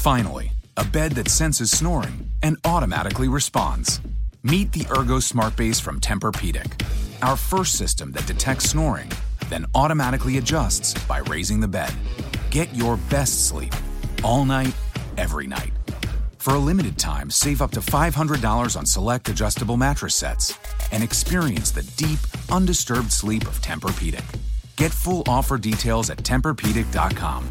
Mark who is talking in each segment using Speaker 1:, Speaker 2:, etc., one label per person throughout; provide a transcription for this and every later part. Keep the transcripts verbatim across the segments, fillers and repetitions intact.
Speaker 1: Finally, a bed that senses snoring and automatically responds. Meet the Ergo Smart Base from Tempur-Pedic, our first system that detects snoring, then automatically adjusts by raising the bed. Get your best sleep all night, every night. For a limited time, save up to five hundred dollars on select adjustable mattress sets and experience the deep, undisturbed sleep of Tempur-Pedic. Get full offer details at Tempur Pedic dot com.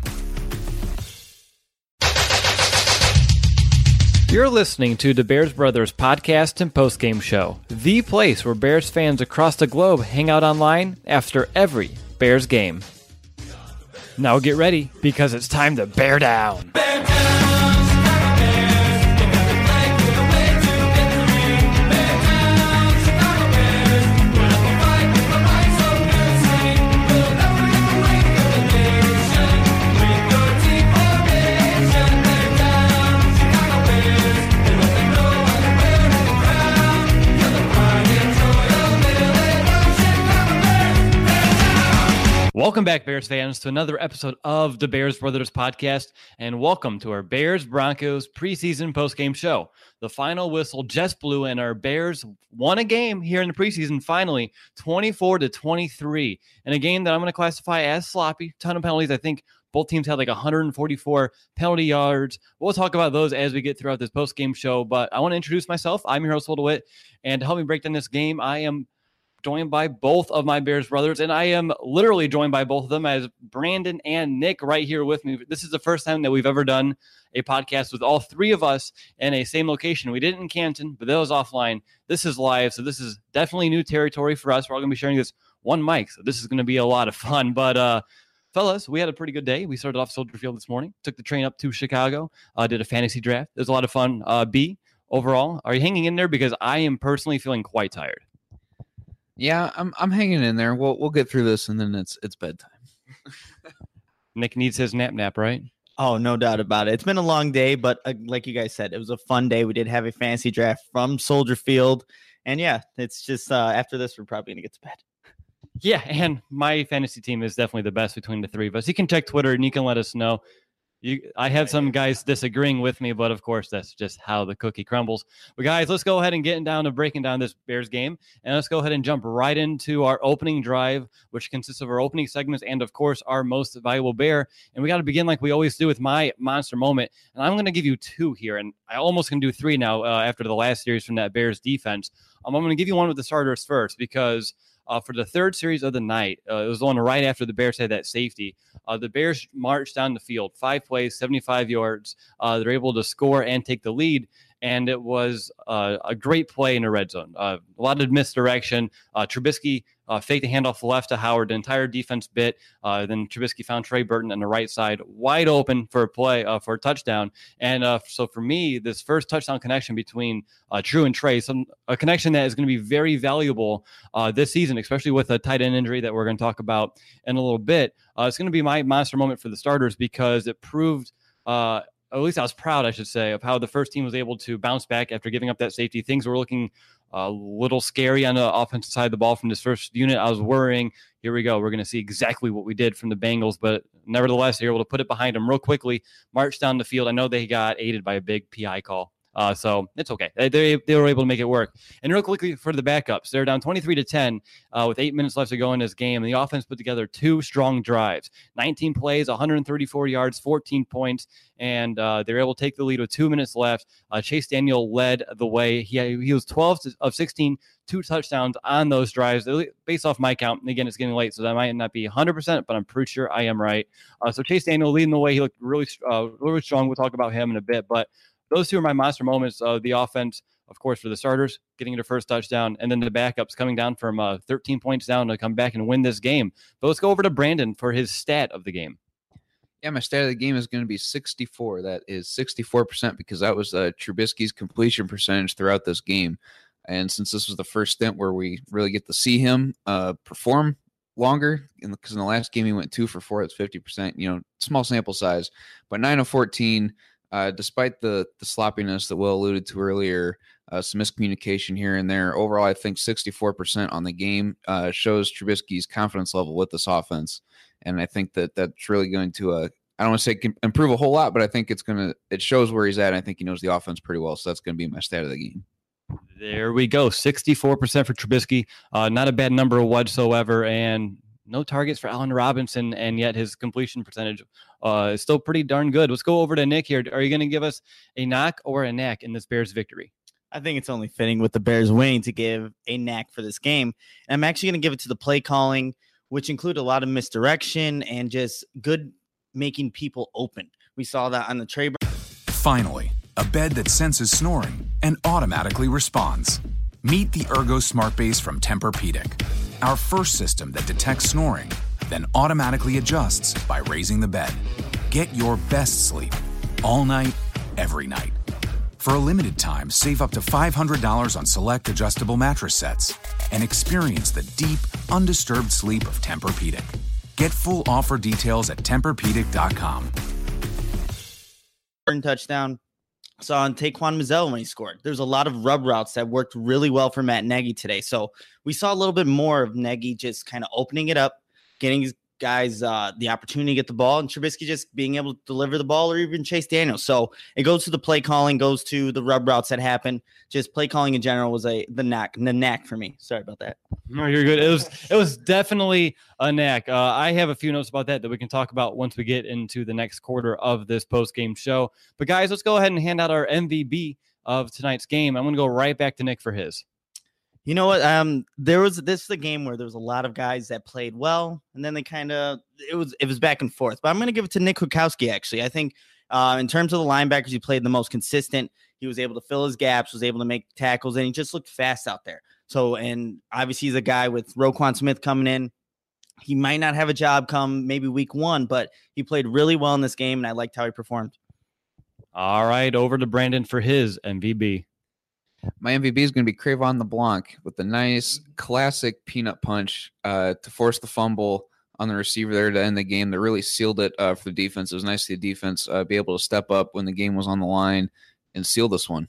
Speaker 2: You're listening to the Bears Brothers podcast and postgame show, the place where Bears fans across the globe hang out online after every Bears game. Now get ready, because it's time to bear down. Bear down! Welcome back, Bears fans, to another episode of the Bears Brothers podcast, and welcome to our Bears-Broncos preseason postgame show. The final whistle just blew, and our Bears won a game here in the preseason, finally, twenty-four to twenty-three, in a game that I'm going to classify as sloppy. Ton of penalties. I think both teams had like one hundred forty-four penalty yards. We'll talk about those as we get throughout this postgame show, but I want to introduce myself. I'm your host, Will DeWitt, and to help me break down this game, I am joined by both of my Bears brothers, and I am literally joined by both of them as Brandon and Nick right here with me. This is the first time that we've ever done a podcast with all three of us in a same location. We did it in Canton, but that was offline. This is live, so this is definitely new territory for us. We're all going to be sharing this one mic, so this is going to be a lot of fun. But uh, fellas, we had a pretty good day. We started off Soldier Field this morning, took the train up to Chicago, uh, did a fantasy draft. It was a lot of fun. Uh, B, overall, are you hanging in there? Because I am personally feeling quite tired.
Speaker 3: Yeah, I'm I'm hanging in there. We'll we'll get through this, and then it's it's bedtime.
Speaker 2: Nick needs his nap nap, right?
Speaker 4: Oh, no doubt about it. It's been a long day, but uh, like you guys said, it was a fun day. We did have a fantasy draft from Soldier Field, and yeah, it's just uh, after this, we're probably gonna get to bed.
Speaker 2: Yeah, and my fantasy team is definitely the best between the three of us. You can check Twitter, and you can let us know. You, I have some guys disagreeing with me, but of course, that's just how the cookie crumbles. But guys, let's go ahead and get down to breaking down this Bears game, and let's go ahead and jump right into our opening drive, which consists of our opening segments and, of course, our most valuable Bear. And we got to begin like we always do with my monster moment, and I'm going to give you two here, and I almost can do three now uh, after the last series from that Bears defense. Um, I'm going to give you one with the starters first because Uh, for the third series of the night, uh, it was the one right after the Bears had that safety. Uh, the Bears marched down the field, five plays, seventy-five yards. Uh, they're able to score and take the lead, and it was uh, a great play in the red zone. Uh, a lot of misdirection. Uh, Trubisky uh, faked the handoff left to Howard. The entire defense bit. Uh, then Trubisky found Trey Burton on the right side, wide open for a play, uh, for a touchdown. And uh, so for me, this first touchdown connection between uh, Drew and Trey, some a connection that is going to be very valuable uh, this season, especially with a tight end injury that we're going to talk about in a little bit. Uh, it's going to be my monster moment for the starters because it proved uh, at least I was proud, I should say, of how the first team was able to bounce back after giving up that safety. Things were looking a little scary on the offensive side of the ball from this first unit. I was worrying, here we go. We're going to see exactly what we did from the Bengals, but nevertheless, they were able to put it behind them real quickly, march down the field. I know they got aided by a big P I call. Uh, so it's okay. They, they they were able to make it work. And real quickly for the backups, they're down twenty-three to ten uh, with eight minutes left to go in this game. And the offense put together two strong drives, nineteen plays, one hundred thirty-four yards, fourteen points, and uh, they were able to take the lead with two minutes left. Uh, Chase Daniel led the way. He he was twelve of sixteen, two touchdowns on those drives. Based off my count, and again, it's getting late, so that might not be one hundred percent, but I'm pretty sure I am right. Uh, so Chase Daniel leading the way. He looked really uh, really strong. We'll talk about him in a bit, but those two are my monster moments of the offense, of course, for the starters, getting their first touchdown, and then the backups coming down from uh, thirteen points down to come back and win this game. But let's go over to Brandon for his stat of the game.
Speaker 3: Yeah, my stat of the game is going to be sixty-four. That is sixty-four percent because that was uh, Trubisky's completion percentage throughout this game. And since this was the first stint where we really get to see him uh, perform longer, because in, in the last game he went two for four, that's fifty percent, you know, small sample size, but nine of fourteen. Uh, despite the the sloppiness that Will alluded to earlier, uh, some miscommunication here and there, overall, I think sixty-four percent on the game uh, shows Trubisky's confidence level with this offense. And I think that that's really going to uh, I don't want to say can improve a whole lot, but I think it's gonna. It shows where he's at. And I think he knows the offense pretty well, so that's gonna be my stat of the game.
Speaker 2: There we go, sixty-four percent for Trubisky. Uh, not a bad number whatsoever, and no targets for Allen Robinson, and yet his completion percentage uh, is still pretty darn good. Let's go over to Nick here. Are you going to give us a knock or a knack in this Bears victory?
Speaker 4: I think it's only fitting with the Bears winning to give a knack for this game. And I'm actually going to give it to the play calling, which include a lot of misdirection and just good making people open. We saw that on the Trey.
Speaker 1: Finally, a bed that senses snoring and automatically responds. Meet the Ergo Smart Base from Tempur-Pedic, our first system that detects snoring, then automatically adjusts by raising the bed. Get your best sleep all night, every night. For a limited time, save up to five hundred dollars on select adjustable mattress sets and experience the deep, undisturbed sleep of Tempur-Pedic. Get full offer details at Tempur Pedic dot com.
Speaker 4: Touchdown. Saw on Taquan Mizzell when he scored. There's a lot of rub routes that worked really well for Matt Nagy today. So we saw a little bit more of Nagy just kind of opening it up, getting his guys uh, the opportunity to get the ball, and Trubisky just being able to deliver the ball or even Chase Daniels. So it goes to the play calling, goes to the rub routes that happen. Just play calling in general was a the knack, the knack for me. Sorry about that.
Speaker 2: No, you're good. It was it was definitely a knack. Uh, I have a few notes about that that we can talk about once we get into the next quarter of this post-game show. But guys, let's go ahead and hand out our M V B of tonight's game. I'm going to go right back to Nick for his.
Speaker 4: You know what? Um, there was this is a game where there was a lot of guys that played well, and then they kind of it was it was back and forth. But I'm going to give it to Nick Kwiatkowski. Actually, I think uh, in terms of the linebackers, he played the most consistent. He was able to fill his gaps, was able to make tackles, and he just looked fast out there. So, and obviously, he's a guy with Roquan Smith coming in. He might not have a job come maybe week one, but he played really well in this game, and I liked how he performed.
Speaker 2: All right, over to Brandon for his M V B.
Speaker 3: My M V B is going to be Cre'Von LeBlanc with the nice classic peanut punch uh, to force the fumble on the receiver there to end the game. That really sealed it uh, for the defense. It was nice to see the defense uh, be able to step up when the game was on the line and seal this one.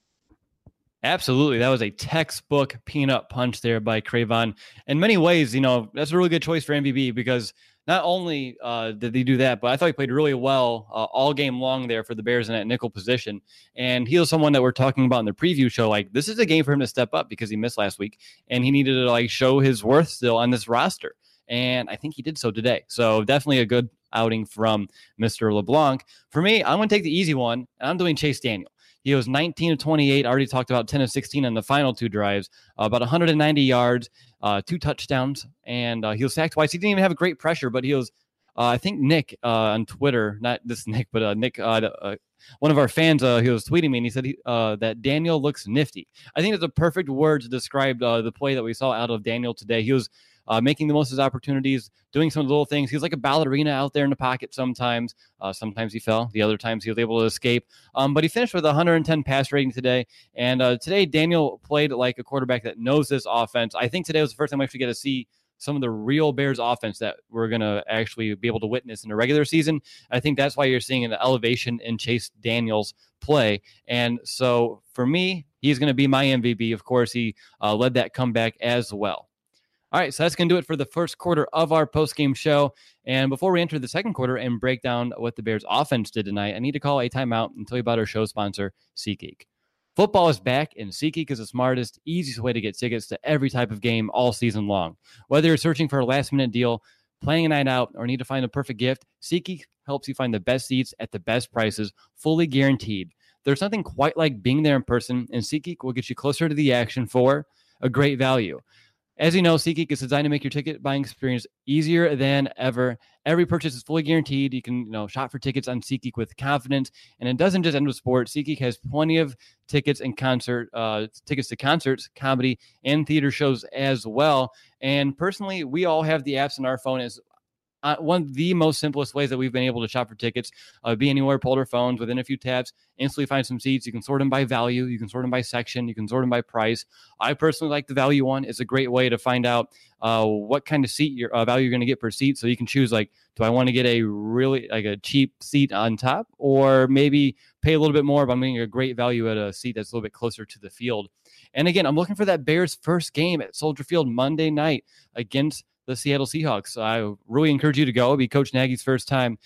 Speaker 2: Absolutely. That was a textbook peanut punch there by Cre'Von. In many ways, you know, that's a really good choice for M V B because not only uh, did he do that, but I thought he played really well uh, all game long there for the Bears in that nickel position. And he was someone that we're talking about in the preview show. Like, this is a game for him to step up because he missed last week and he needed to like show his worth still on this roster. And I think he did so today. So definitely a good outing from Mister LeBlanc. For me, I'm going to take the easy one, and I'm doing Chase Daniel. He was nineteen of twenty-eight. I already talked about ten of sixteen on the final two drives, uh, about one hundred ninety yards, uh, two touchdowns, and uh, he was sacked twice. He didn't even have a great pressure, but he was, uh, I think Nick uh, on Twitter, not this Nick, but uh, Nick, uh, uh, one of our fans, uh, he was tweeting me, and he said he, uh, that Daniel looks nifty. I think it's a perfect word to describe uh, the play that we saw out of Daniel today. He was Uh, making the most of his opportunities, doing some little things. He was like a ballerina out there in the pocket sometimes. Uh, sometimes he fell. The other times he was able to escape. Um, but he finished with one hundred ten pass rating today. And uh, today, Daniel played like a quarterback that knows this offense. I think today was the first time we actually get to see some of the real Bears offense that we're going to actually be able to witness in the regular season. I think that's why you're seeing an elevation in Chase Daniel's play. And so for me, he's going to be my M V P. Of course, he uh, led that comeback as well. All right, so that's going to do it for the first quarter of our post-game show. And before we enter the second quarter and break down what the Bears offense did tonight, I need to call a timeout and tell you about our show sponsor, SeatGeek. Football is back, and SeatGeek is the smartest, easiest way to get tickets to every type of game all season long. Whether you're searching for a last-minute deal, planning a night out, or need to find a perfect gift, SeatGeek helps you find the best seats at the best prices, fully guaranteed. There's nothing quite like being there in person, and SeatGeek will get you closer to the action for a great value. As you know, SeatGeek is designed to make your ticket buying experience easier than ever. Every purchase is fully guaranteed. You can, you know, shop for tickets on SeatGeek with confidence. And it doesn't just end with sports. SeatGeek has plenty of tickets and concert uh, tickets to concerts, comedy, and theater shows as well. And personally, we all have the apps on our phone as Uh, one of the most simplest ways that we've been able to shop for tickets. Uh, be anywhere, pull our phones within a few taps, instantly find some seats. You can sort them by value. You can sort them by section. You can sort them by price. I personally like the value one. It's a great way to find out uh, what kind of seat your uh, value you're going to get per seat. So you can choose, like, do I want to get a really like a cheap seat on top, or maybe pay a little bit more, but I'm getting a great value at a seat that's a little bit closer to the field. And again, I'm looking for that Bears first game at Soldier Field Monday night against the Seattle Seahawks. So I really encourage you to go. It'll be Coach Nagy's first time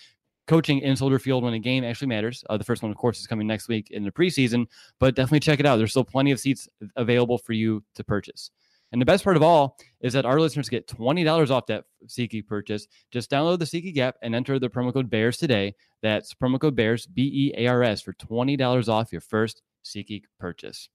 Speaker 2: coaching in Soldier Field when a game actually matters. Uh, the first one, of course, is coming next week in the preseason, but definitely check it out. There's still plenty of seats available for you to purchase. And the best part of all is that our listeners get twenty dollars off that SeatGeek purchase. Just download the SeatGeek app and enter the promo code BEARS today. That's promo code BEARS, B E A R S, for twenty dollars off your first SeatGeek purchase.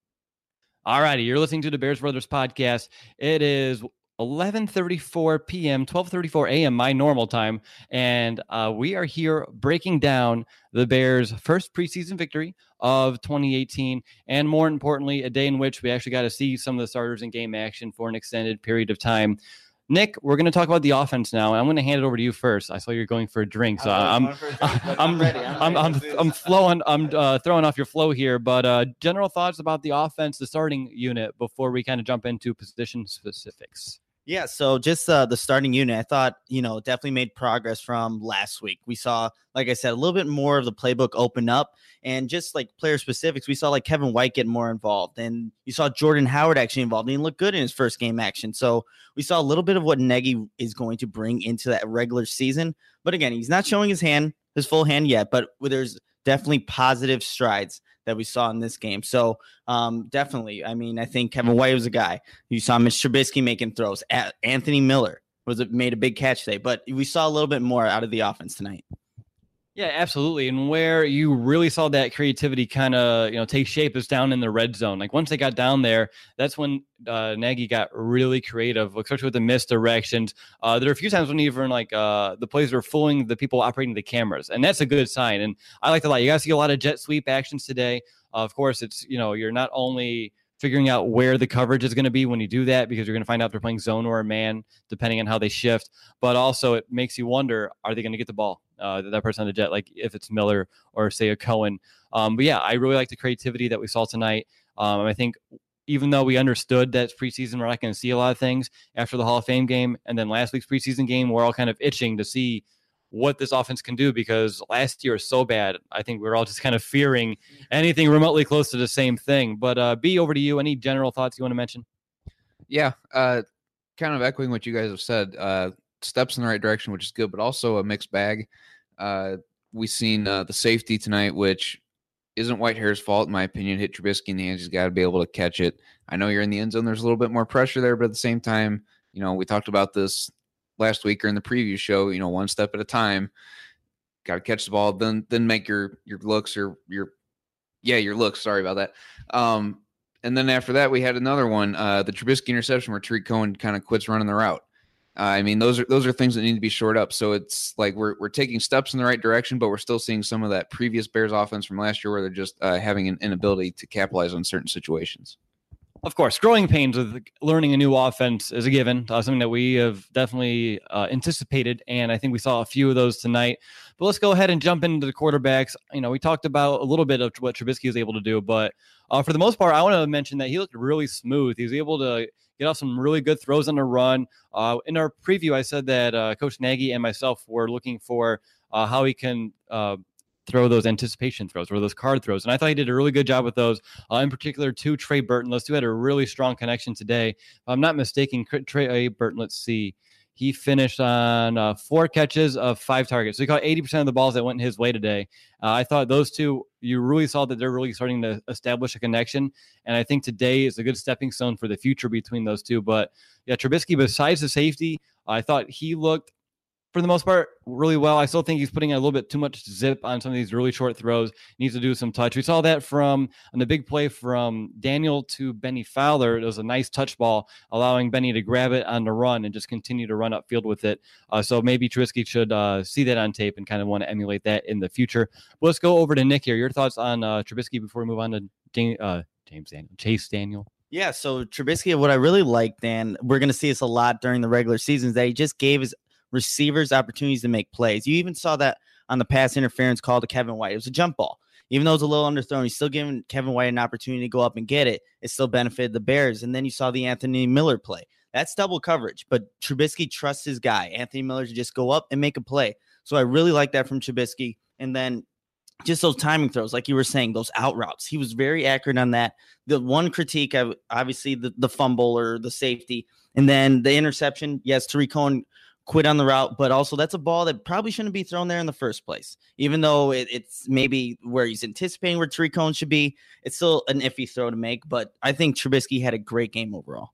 Speaker 2: All righty, you're listening to the Bears Brothers podcast. It is eleven thirty-four p.m., twelve thirty-four a.m., my normal time, and uh, we are here breaking down the Bears' first preseason victory of twenty eighteen, and more importantly, a day in which we actually got to see some of the starters in game action for an extended period of time. Nick, we're going to talk about the offense now, and I'm going to hand it over to you first. I saw you're going for a drink, so I'm I'm I'm ready. I'm I'm, I'm, I'm flowing. I'm uh, throwing off your flow here, but uh, general thoughts about the offense, the starting unit, before we kind of jump into position specifics.
Speaker 4: Yeah, so just uh, the starting unit, I thought, you know, definitely made progress from last week. We saw, like I said, a little bit more of the playbook open up, and just like player specifics, we saw like Kevin White get more involved, and you saw Jordan Howard actually involved, and he looked good in his first game action. So we saw a little bit of what Nagy is going to bring into that regular season. But again, he's not showing his hand, his full hand yet, but there's definitely positive strides that we saw in this game. So um, definitely, I mean, I think Kevin White was a guy. You saw Mitch Trubisky making throws. A- Anthony Miller was a, made a big catch today, but we saw a little bit more out of the offense tonight.
Speaker 2: Yeah, absolutely. And where you really saw that creativity kind of, you know, take shape is down in the red zone. Like once they got down there, that's when uh, Nagy got really creative, especially with the misdirections. Uh, there are a few times when even like uh, the plays were fooling the people operating the cameras, and that's a good sign. And I like a lot. You guys see a lot of jet sweep actions today. Uh, of course, it's, you know, you're not only figuring out where the coverage is going to be when you do that, because you're going to find out if they're playing zone or a man, depending on how they shift. But also it makes you wonder, are they going to get the ball? Uh, that person on the jet, like if it's Miller or say a Cohen. Um, but yeah, I really like the creativity that we saw tonight. Um, I think even though we understood that preseason, we're not going to see a lot of things after the Hall of Fame game. And then last week's preseason game, we're all kind of itching to see what this offense can do, because last year was so bad. I think we're all just kind of fearing anything remotely close to the same thing. But uh, B, over to you. Any general thoughts you want to mention?
Speaker 3: Yeah, uh, kind of echoing what you guys have said. Uh, steps in the right direction, which is good, but also a mixed bag. Uh, we've seen uh, the safety tonight, which isn't Whitehair's fault, in my opinion. Hit Trubisky in the hands. He's got to be able to catch it. I know you're in the end zone. There's a little bit more pressure there, but at the same time, you know, we talked about this last week or in the preview show, you know, one step at a time. Got to catch the ball, then then make your your looks or your, yeah, your looks. Sorry about that. Um, and then after that, we had another one, uh, the Trubisky interception where Tariq Cohen kind of quits running the route. Uh, I mean, those are those are things that need to be shored up. So it's like we're we're taking steps in the right direction, but we're still seeing some of that previous Bears offense from last year where they're just uh, having an inability to capitalize on certain situations.
Speaker 2: Of course, growing pains with learning a new offense is a given, uh, something that we have definitely uh, anticipated, and I think we saw a few of those tonight. But let's go ahead and jump into the quarterbacks. You know, we talked about a little bit of what Trubisky was able to do, but uh, for the most part, I want to mention that he looked really smooth. He was able to get off some really good throws on the run. Uh, in our preview, I said that uh, Coach Nagy and myself were looking for uh, how he can uh, throw those anticipation throws or those card throws. And I thought he did a really good job with those, uh, in particular to Trey Burton. Those two had a really strong connection today. If I'm not mistaken, Trey Burton, let's see, he finished on uh, four catches of five targets. So he caught eighty percent of the balls that went his way today. Uh, I thought those two, you really saw that they're really starting to establish a connection. And I think today is a good stepping stone for the future between those two. But yeah, Trubisky, besides the safety, I thought he looked, for the most part, really well. I still think he's putting a little bit too much zip on some of these really short throws. Needs to do some touch. We saw that from on the big play from Daniel to Benny Fowler. It was a nice touch ball, allowing Benny to grab it on the run and just continue to run upfield with it. Uh, so maybe Trubisky should uh, see that on tape and kind of want to emulate that in the future. But let's go over to Nick here. Your thoughts on uh, Trubisky before we move on to James, uh, James Daniel, Chase Daniel.
Speaker 4: Yeah, so Trubisky, what I really liked, and we're going to see this a lot during the regular season, is that he just gave his receivers opportunities to make plays. You even saw that on the pass interference call to Kevin White. It was a jump ball. Even though it was a little underthrown, he's still giving Kevin White an opportunity to go up and get it. It still benefited the Bears. And then you saw the Anthony Miller play. That's double coverage, but Trubisky trusts his guy, Anthony Miller, to just go up and make a play. So I really like that from Trubisky. And then just those timing throws, like you were saying, those out routes. He was very accurate on that. The one critique, obviously, the, the fumble or the safety. And then the interception, yes, Tariq Cohen quit on the route, but also that's a ball that probably shouldn't be thrown there in the first place. Even though it, it's maybe where he's anticipating where Tariq Cohen should be, it's still an iffy throw to make. But I think Trubisky had a great game overall.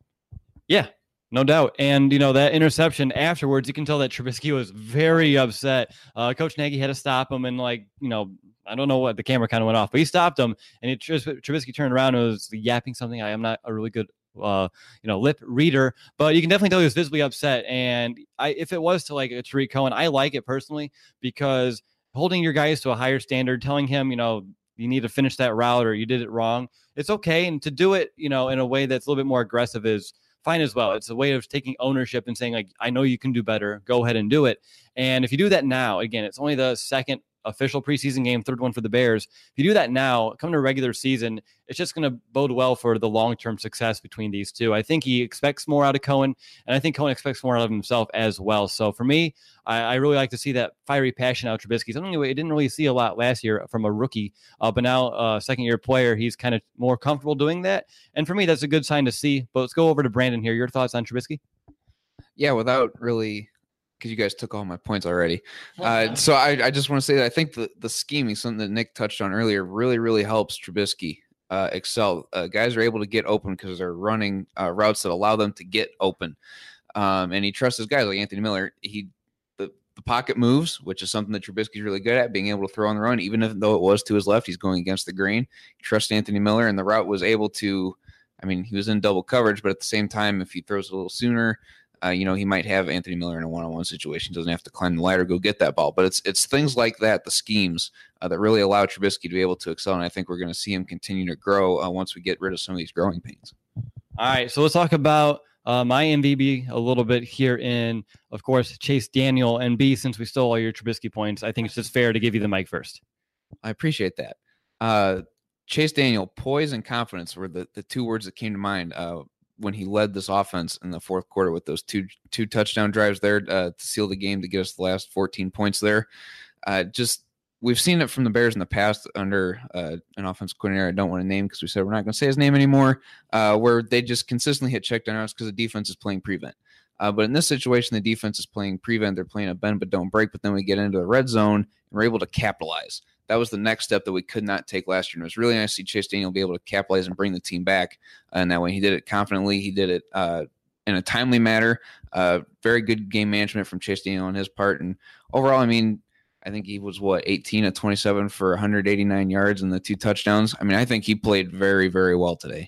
Speaker 2: Yeah, no doubt. And, you know, that interception afterwards, you can tell that Trubisky was very upset. Uh, Coach Nagy had to stop him and, like, you know, I don't know what, the camera kind of went off, but he stopped him, and he, Trubisky turned around and was yapping something. I am not a really good uh you know lip reader, but you can definitely tell he was visibly upset. And I if it was to like a Tariq Cohen, I like it personally, because holding your guys to a higher standard, telling him, you know, you need to finish that route or you did it wrong, it's okay. And to do it, you know, in a way that's a little bit more aggressive is fine as well. It's a way of taking ownership and saying, like, I know you can do better, go ahead and do it. And if you do that now, again, it's only the second official preseason game, third one for the Bears. If you do that now, come to regular season, it's just going to bode well for the long-term success between these two. I think he expects more out of Cohen, and I think Cohen expects more out of himself as well. So for me, I, I really like to see that fiery passion out of Trubisky. Something we didn't really see a lot last year from a rookie, uh, but now a uh, second-year player, he's kind of more comfortable doing that. And for me, that's a good sign to see. But let's go over to Brandon here. Your thoughts on Trubisky?
Speaker 3: Yeah, without really, because you guys took all my points already. Uh, so I, I just want to say that I think the, the scheming, something that Nick touched on earlier, really, really helps Trubisky uh, excel. Uh, guys are able to get open because they're running uh, routes that allow them to get open. Um, and he trusts his guys like Anthony Miller. He the, the pocket moves, which is something that Trubisky's really good at, being able to throw on the run, even if, though it was to his left, he's going against the grain. He trusts Anthony Miller, and the route was able to, I mean, he was in double coverage, but at the same time, if he throws a little sooner, Uh, you know, he might have Anthony Miller in a one-on-one situation. Doesn't have to climb the ladder, go get that ball. But it's it's things like that, the schemes, uh, that really allow Trubisky to be able to excel. And I think we're going to see him continue to grow uh, once we get rid of some of these growing pains.
Speaker 2: All right, so let's talk about uh, my M V B a little bit here in, of course, Chase Daniel. And B, since we stole all your Trubisky points, I think it's just fair to give you the mic first.
Speaker 3: I appreciate that. Uh, Chase Daniel, poise and confidence were the, the two words that came to mind uh, when he led this offense in the fourth quarter with those two two touchdown drives there uh, to seal the game, to get us the last fourteen points there. Uh, just we've seen it from the Bears in the past under uh, an offensive coordinator I don't want to name because we said we're not going to say his name anymore, uh, where they just consistently hit check down routes because the defense is playing prevent. Uh, but in this situation, the defense is playing prevent. They're playing a bend but don't break. But then we get into the red zone and we're able to capitalize. That was the next step that we could not take last year. And it was really nice to see Chase Daniel be able to capitalize and bring the team back. And that way he did it confidently. He did it uh, in a timely manner. Uh, very good game management from Chase Daniel on his part. And overall, I mean, I think he was, what, eighteen of twenty-seven for one hundred eighty-nine yards and the two touchdowns. I mean, I think he played very, very well today.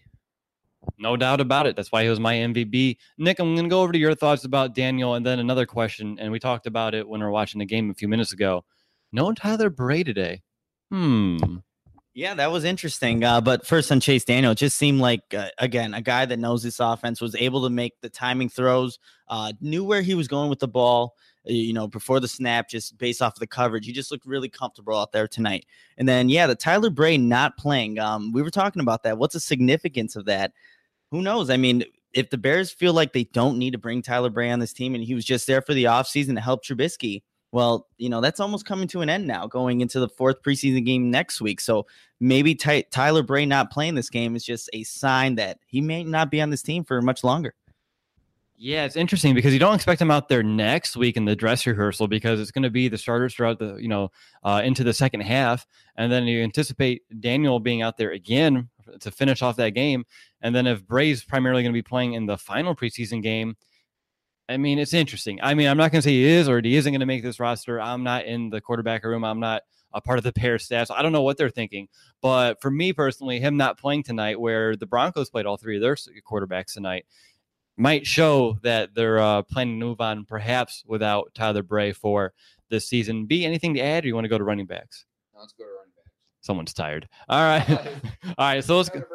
Speaker 2: No doubt about it. That's why he was my M V B. Nick, I'm going to go over to your thoughts about Daniel and then another question. And we talked about it when we were watching the game a few minutes ago. No Tyler Bray today. Hmm.
Speaker 4: Yeah, that was interesting. Uh, but first on Chase Daniel, it just seemed like, uh, again, a guy that knows this offense, was able to make the timing throws, uh, knew where he was going with the ball, you know, before the snap, just based off of the coverage. He just looked really comfortable out there tonight. And then, yeah, the Tyler Bray not playing. Um, we were talking about that. What's the significance of that? Who knows? I mean, if the Bears feel like they don't need to bring Tyler Bray on this team and he was just there for the offseason to help Trubisky, well, you know, that's almost coming to an end now, going into the fourth preseason game next week. So maybe Ty- Tyler Bray not playing this game is just a sign that he may not be on this team for much longer.
Speaker 2: Yeah, it's interesting because you don't expect him out there next week in the dress rehearsal because it's going to be the starters throughout the, you know, uh, into the second half. And then you anticipate Daniel being out there again to finish off that game. And then if Bray's primarily going to be playing in the final preseason game, I mean, it's interesting. I mean, I'm not going to say he is or he isn't going to make this roster. I'm not in the quarterback room. I'm not a part of the Bears staff. So I don't know what they're thinking. But for me personally, him not playing tonight, where the Broncos played all three of their quarterbacks tonight, might show that they're uh, planning to move on perhaps without Tyler Bray for this season. B, anything to add, or you want to go to running backs?
Speaker 3: No, let's go to running backs.
Speaker 2: Someone's tired. All right. All right. So let's go.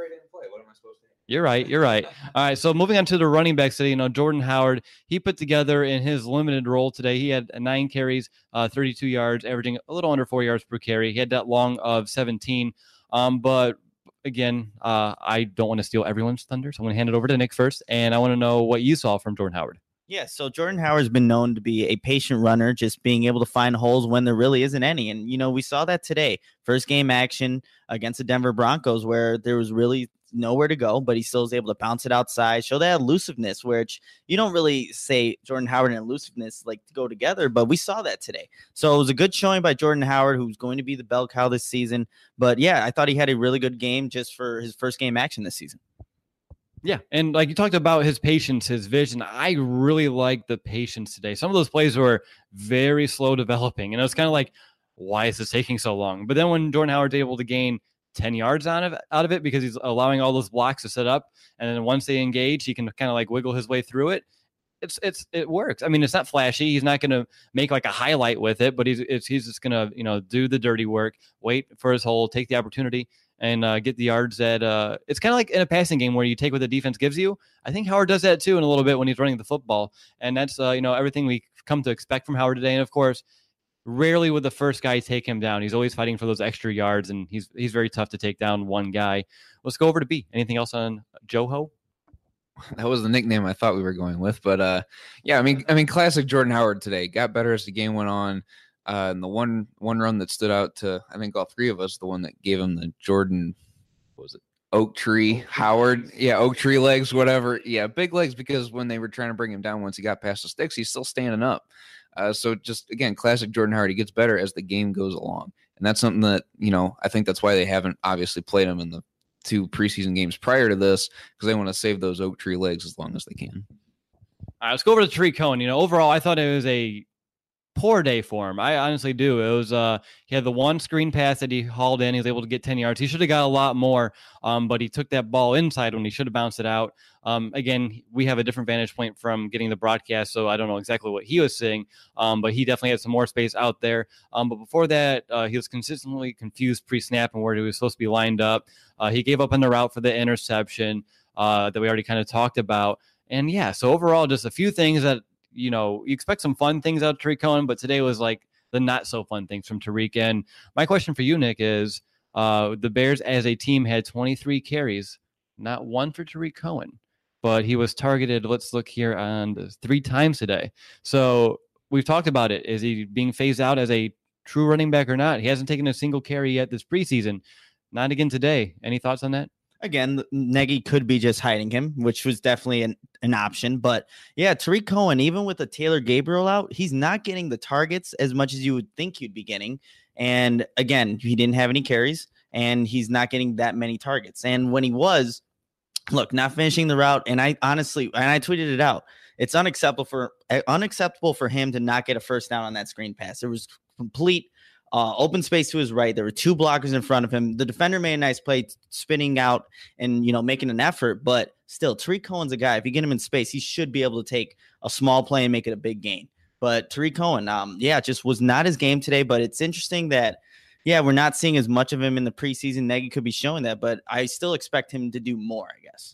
Speaker 2: You're right. You're right. All right. So moving on to the running backs today, you know, Jordan Howard, he put together in his limited role today. He had nine carries, uh, thirty-two yards, averaging a little under four yards per carry. He had that long of seventeen. Um, but again, uh, I don't want to steal everyone's thunder. So I'm going to hand it over to Nick first. And I want to know what you saw from Jordan Howard.
Speaker 4: Yeah, so Jordan Howard's been known to be a patient runner, just being able to find holes when there really isn't any. And, you know, we saw that today. First game action against the Denver Broncos where there was really nowhere to go, but he still was able to bounce it outside, show that elusiveness, which you don't really say Jordan Howard and elusiveness like to go together, but we saw that today. So it was a good showing by Jordan Howard, who's going to be the bell cow this season. But, yeah, I thought he had a really good game just for his first game action this season.
Speaker 2: Yeah, and like you talked about his patience, his vision. I really like the patience today. Some of those plays were very slow developing, and it was kind of like, why is this taking so long? But then when Jordan Howard's able to gain ten yards out of it, out of it because he's allowing all those blocks to set up, and then once they engage, he can kind of like wiggle his way through it. It's it's it works. I mean, it's not flashy. He's not going to make like a highlight with it, but he's it's, he's just going to you know do the dirty work, wait for his hole, take the opportunity, and uh, get the yards that uh, it's kind of like in a passing game where you take what the defense gives you. I think Howard does that too in a little bit when he's running the football. And that's, uh, you know, everything we come to expect from Howard today. And of course, rarely would the first guy take him down. He's always fighting for those extra yards, and he's he's very tough to take down one guy. Let's go over to B. Anything else on Joho?
Speaker 3: That was the nickname I thought we were going with. But uh, yeah, I mean, I mean, classic Jordan Howard today. Got better as the game went on. Uh, and the one one run that stood out to, I think, all three of us, the one that gave him the Jordan, what was it, Oak Tree Howard? Yeah, Oak Tree legs, whatever. Yeah, big legs, because when they were trying to bring him down once he got past the sticks, he's still standing up. Uh, so just, again, classic Jordan Howard. He gets better as the game goes along. And that's something that, you know, I think that's why they haven't obviously played him in the two preseason games prior to this, because they want to save those Oak Tree legs as long as they can.
Speaker 2: All right, let's go over to Tarik Cohen. You know, overall, I thought it was a poor day for him. I honestly do. It was uh he had the one screen pass that he hauled in. He was able to get ten yards. He should have got a lot more, um, but he took that ball inside when he should have bounced it out. Um, again, we have a different vantage point from getting the broadcast, so I don't know exactly what he was seeing, um, but he definitely had some more space out there. Um, but before that, uh, he was consistently confused pre-snap and where he was supposed to be lined up. Uh, he gave up on the route for the interception uh, that we already kind of talked about. And yeah, so overall, just a few things that, you know, you expect some fun things out of Tarik Cohen, but today was like the not so fun things from Tarik. And my question for you, Nick, is uh, the Bears as a team had twenty-three carries, not one for Tarik Cohen, but he was targeted. Let's look here on the three times today. So we've talked about it. Is he being phased out as a true running back or not? He hasn't taken a single carry yet this preseason. Not again today. Any thoughts on that?
Speaker 4: Again, Nagy could be just hiding him, which was definitely an, an option. But yeah, Tarik Cohen, even with the Taylor Gabriel out, he's not getting the targets as much as you would think you'd be getting. And again, he didn't have any carries, and he's not getting that many targets. And when he was, look, not finishing the route, and I honestly, and I tweeted it out, it's unacceptable for unacceptable for him to not get a first down on that screen pass. It was complete Uh, open space to his right. There were two blockers in front of him. The defender made a nice play, spinning out and, you know, making an effort. But still, Tarik Cohen's a guy. If you get him in space, he should be able to take a small play and make it a big gain. But Tarik Cohen, um, yeah, just was not his game today. But it's interesting that, yeah, we're not seeing as much of him in the preseason. Nagy could be showing that, but I still expect him to do more, I guess.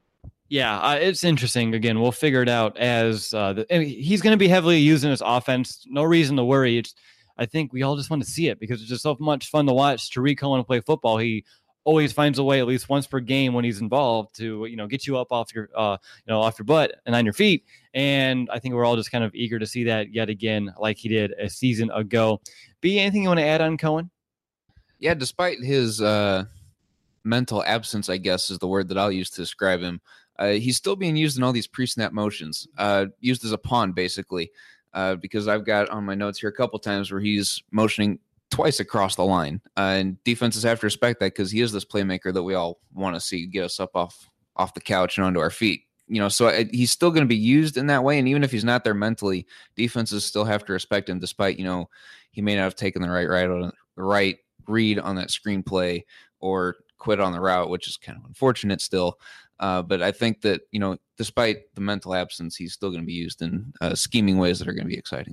Speaker 2: Yeah, uh, it's interesting. Again, we'll figure it out as uh, the, I mean, he's going to be heavily used in his offense. No reason to worry. It's I think we all just want to see it because it's just so much fun to watch Tarik Cohen play football. He always finds a way, at least once per game when he's involved, to you know get you up off your uh, you know off your butt and on your feet. And I think we're all just kind of eager to see that yet again, like he did a season ago. B, anything you want to add on Cohen?
Speaker 3: Yeah, despite his uh, mental absence, I guess is the word that I'll use to describe him. Uh, he's still being used in all these pre-snap motions, uh, used as a pawn, basically. Uh, because I've got on my notes here a couple times where he's motioning twice across the line. Uh, and defenses have to respect that because he is this playmaker that we all want to see get us up off, off the couch and onto our feet. You know, so I, he's still going to be used in that way. And even if he's not there mentally, defenses still have to respect him despite, you know, he may not have taken the right, right, on, the right read on that screenplay or quit on the route, which is kind of unfortunate still. Uh, but I think that, you know, despite the mental absence, he's still going to be used in uh, scheming ways that are going to be exciting.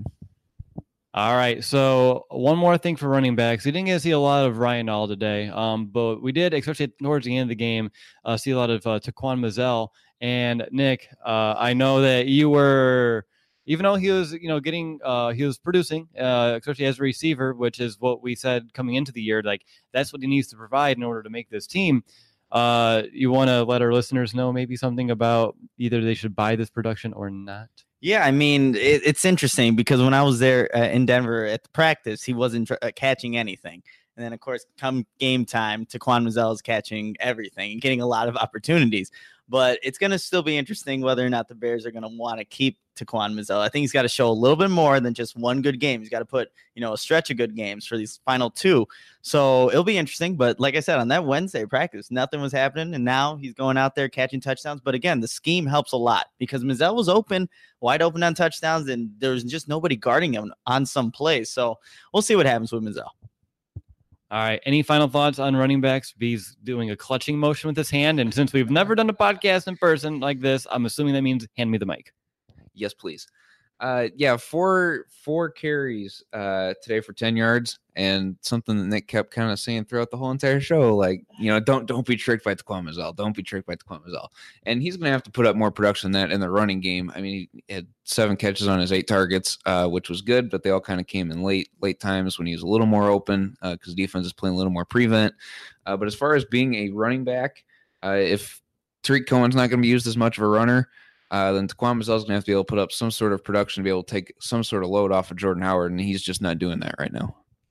Speaker 2: All right. So one more thing for running backs. We didn't get to see a lot of Ryan Nall today, um, but we did, especially towards the end of the game, uh, see a lot of uh, Taquan Mizzell. And Nick, uh, I know that you were, even though he was, you know, getting, uh, he was producing, uh, especially as a receiver, which is what we said coming into the year, like that's what he needs to provide in order to make this team. Uh, you want to let our listeners know maybe something about either they should buy this production or not?
Speaker 4: Yeah, I mean, it, it's interesting because when I was there uh, in Denver at the practice, he wasn't tr- uh, catching anything. And then, of course, come game time, Taquan Mizzell is catching everything and getting a lot of opportunities. But it's going to still be interesting whether or not the Bears are going to want to keep Taquan Mizzell. I think he's got to show a little bit more than just one good game. He's got to put, you know, a stretch of good games for these final two. So it'll be interesting. But like I said, on that Wednesday practice, nothing was happening. And now he's going out there catching touchdowns. But again, the scheme helps a lot because Mizzell was open, wide open on touchdowns, and there was just nobody guarding him on some plays. So we'll see what happens with Mizzell.
Speaker 2: All right. Any final thoughts on running backs? B's doing a clutching motion with his hand. And since we've never done a podcast in person like this, I'm assuming that means hand me the mic.
Speaker 3: Yes, please. Uh, yeah, four four carries uh, today for ten yards, and something that Nick kept kind of saying throughout the whole entire show, like, you know, don't don't be tricked by Taquan Mizzell. Don't be tricked by Taquan Mizzell. And he's going to have to put up more production than that in the running game. I mean, he had seven catches on his eight targets, uh, which was good, but they all kind of came in late late times when he was a little more open because uh, defense is playing a little more prevent. Uh, but as far as being a running back, uh, if Tariq Cohen's not going to be used as much of a runner, Uh, then Taquan Mizzell is going to have to be able to put up some sort of production to be able to take some sort of load off of Jordan Howard, and he's just not doing that right now.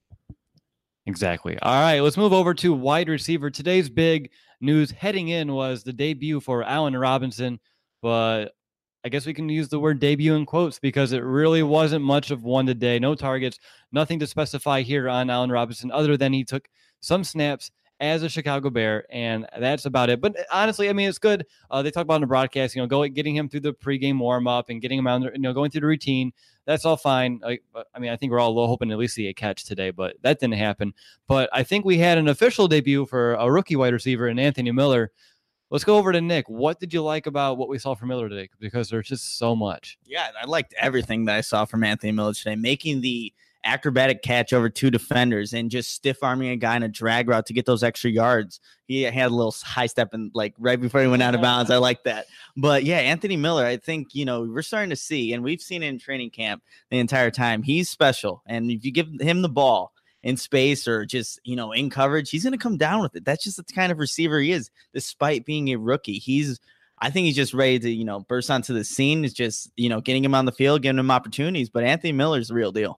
Speaker 2: Exactly. All right, let's move over to wide receiver. Today's big news heading in was the debut for Allen Robinson, but I guess we can use the word debut in quotes because it really wasn't much of one today. No targets, nothing to specify here on Allen Robinson other than he took some snaps as a Chicago Bear, and that's about it. But honestly, I mean, it's good. Uh, they talk about in the broadcast, you know, going getting him through the pregame warm up and getting him out, you know, going through the routine. That's all fine. I, I mean, I think we're all hoping to at least see a catch today, but that didn't happen. But I think we had an official debut for a rookie wide receiver in Anthony Miller. Let's go over to Nick. What did you like about what we saw from Miller today? Because there's just so much.
Speaker 4: Yeah, I liked everything that I saw from Anthony Miller today, making the acrobatic catch over two defenders and just stiff arming a guy in a drag route to get those extra yards. He had a little high step and like right before he went out of bounds. I like that. But yeah, Anthony Miller, I think, you know, we're starting to see, and we've seen it in training camp the entire time. He's special. And if you give him the ball in space or just, you know, in coverage, he's going to come down with it. That's just the kind of receiver he is, despite being a rookie. He's, I think he's just ready to, you know, burst onto the scene. It's just, you know, getting him on the field, giving him opportunities. But Anthony Miller's the real deal.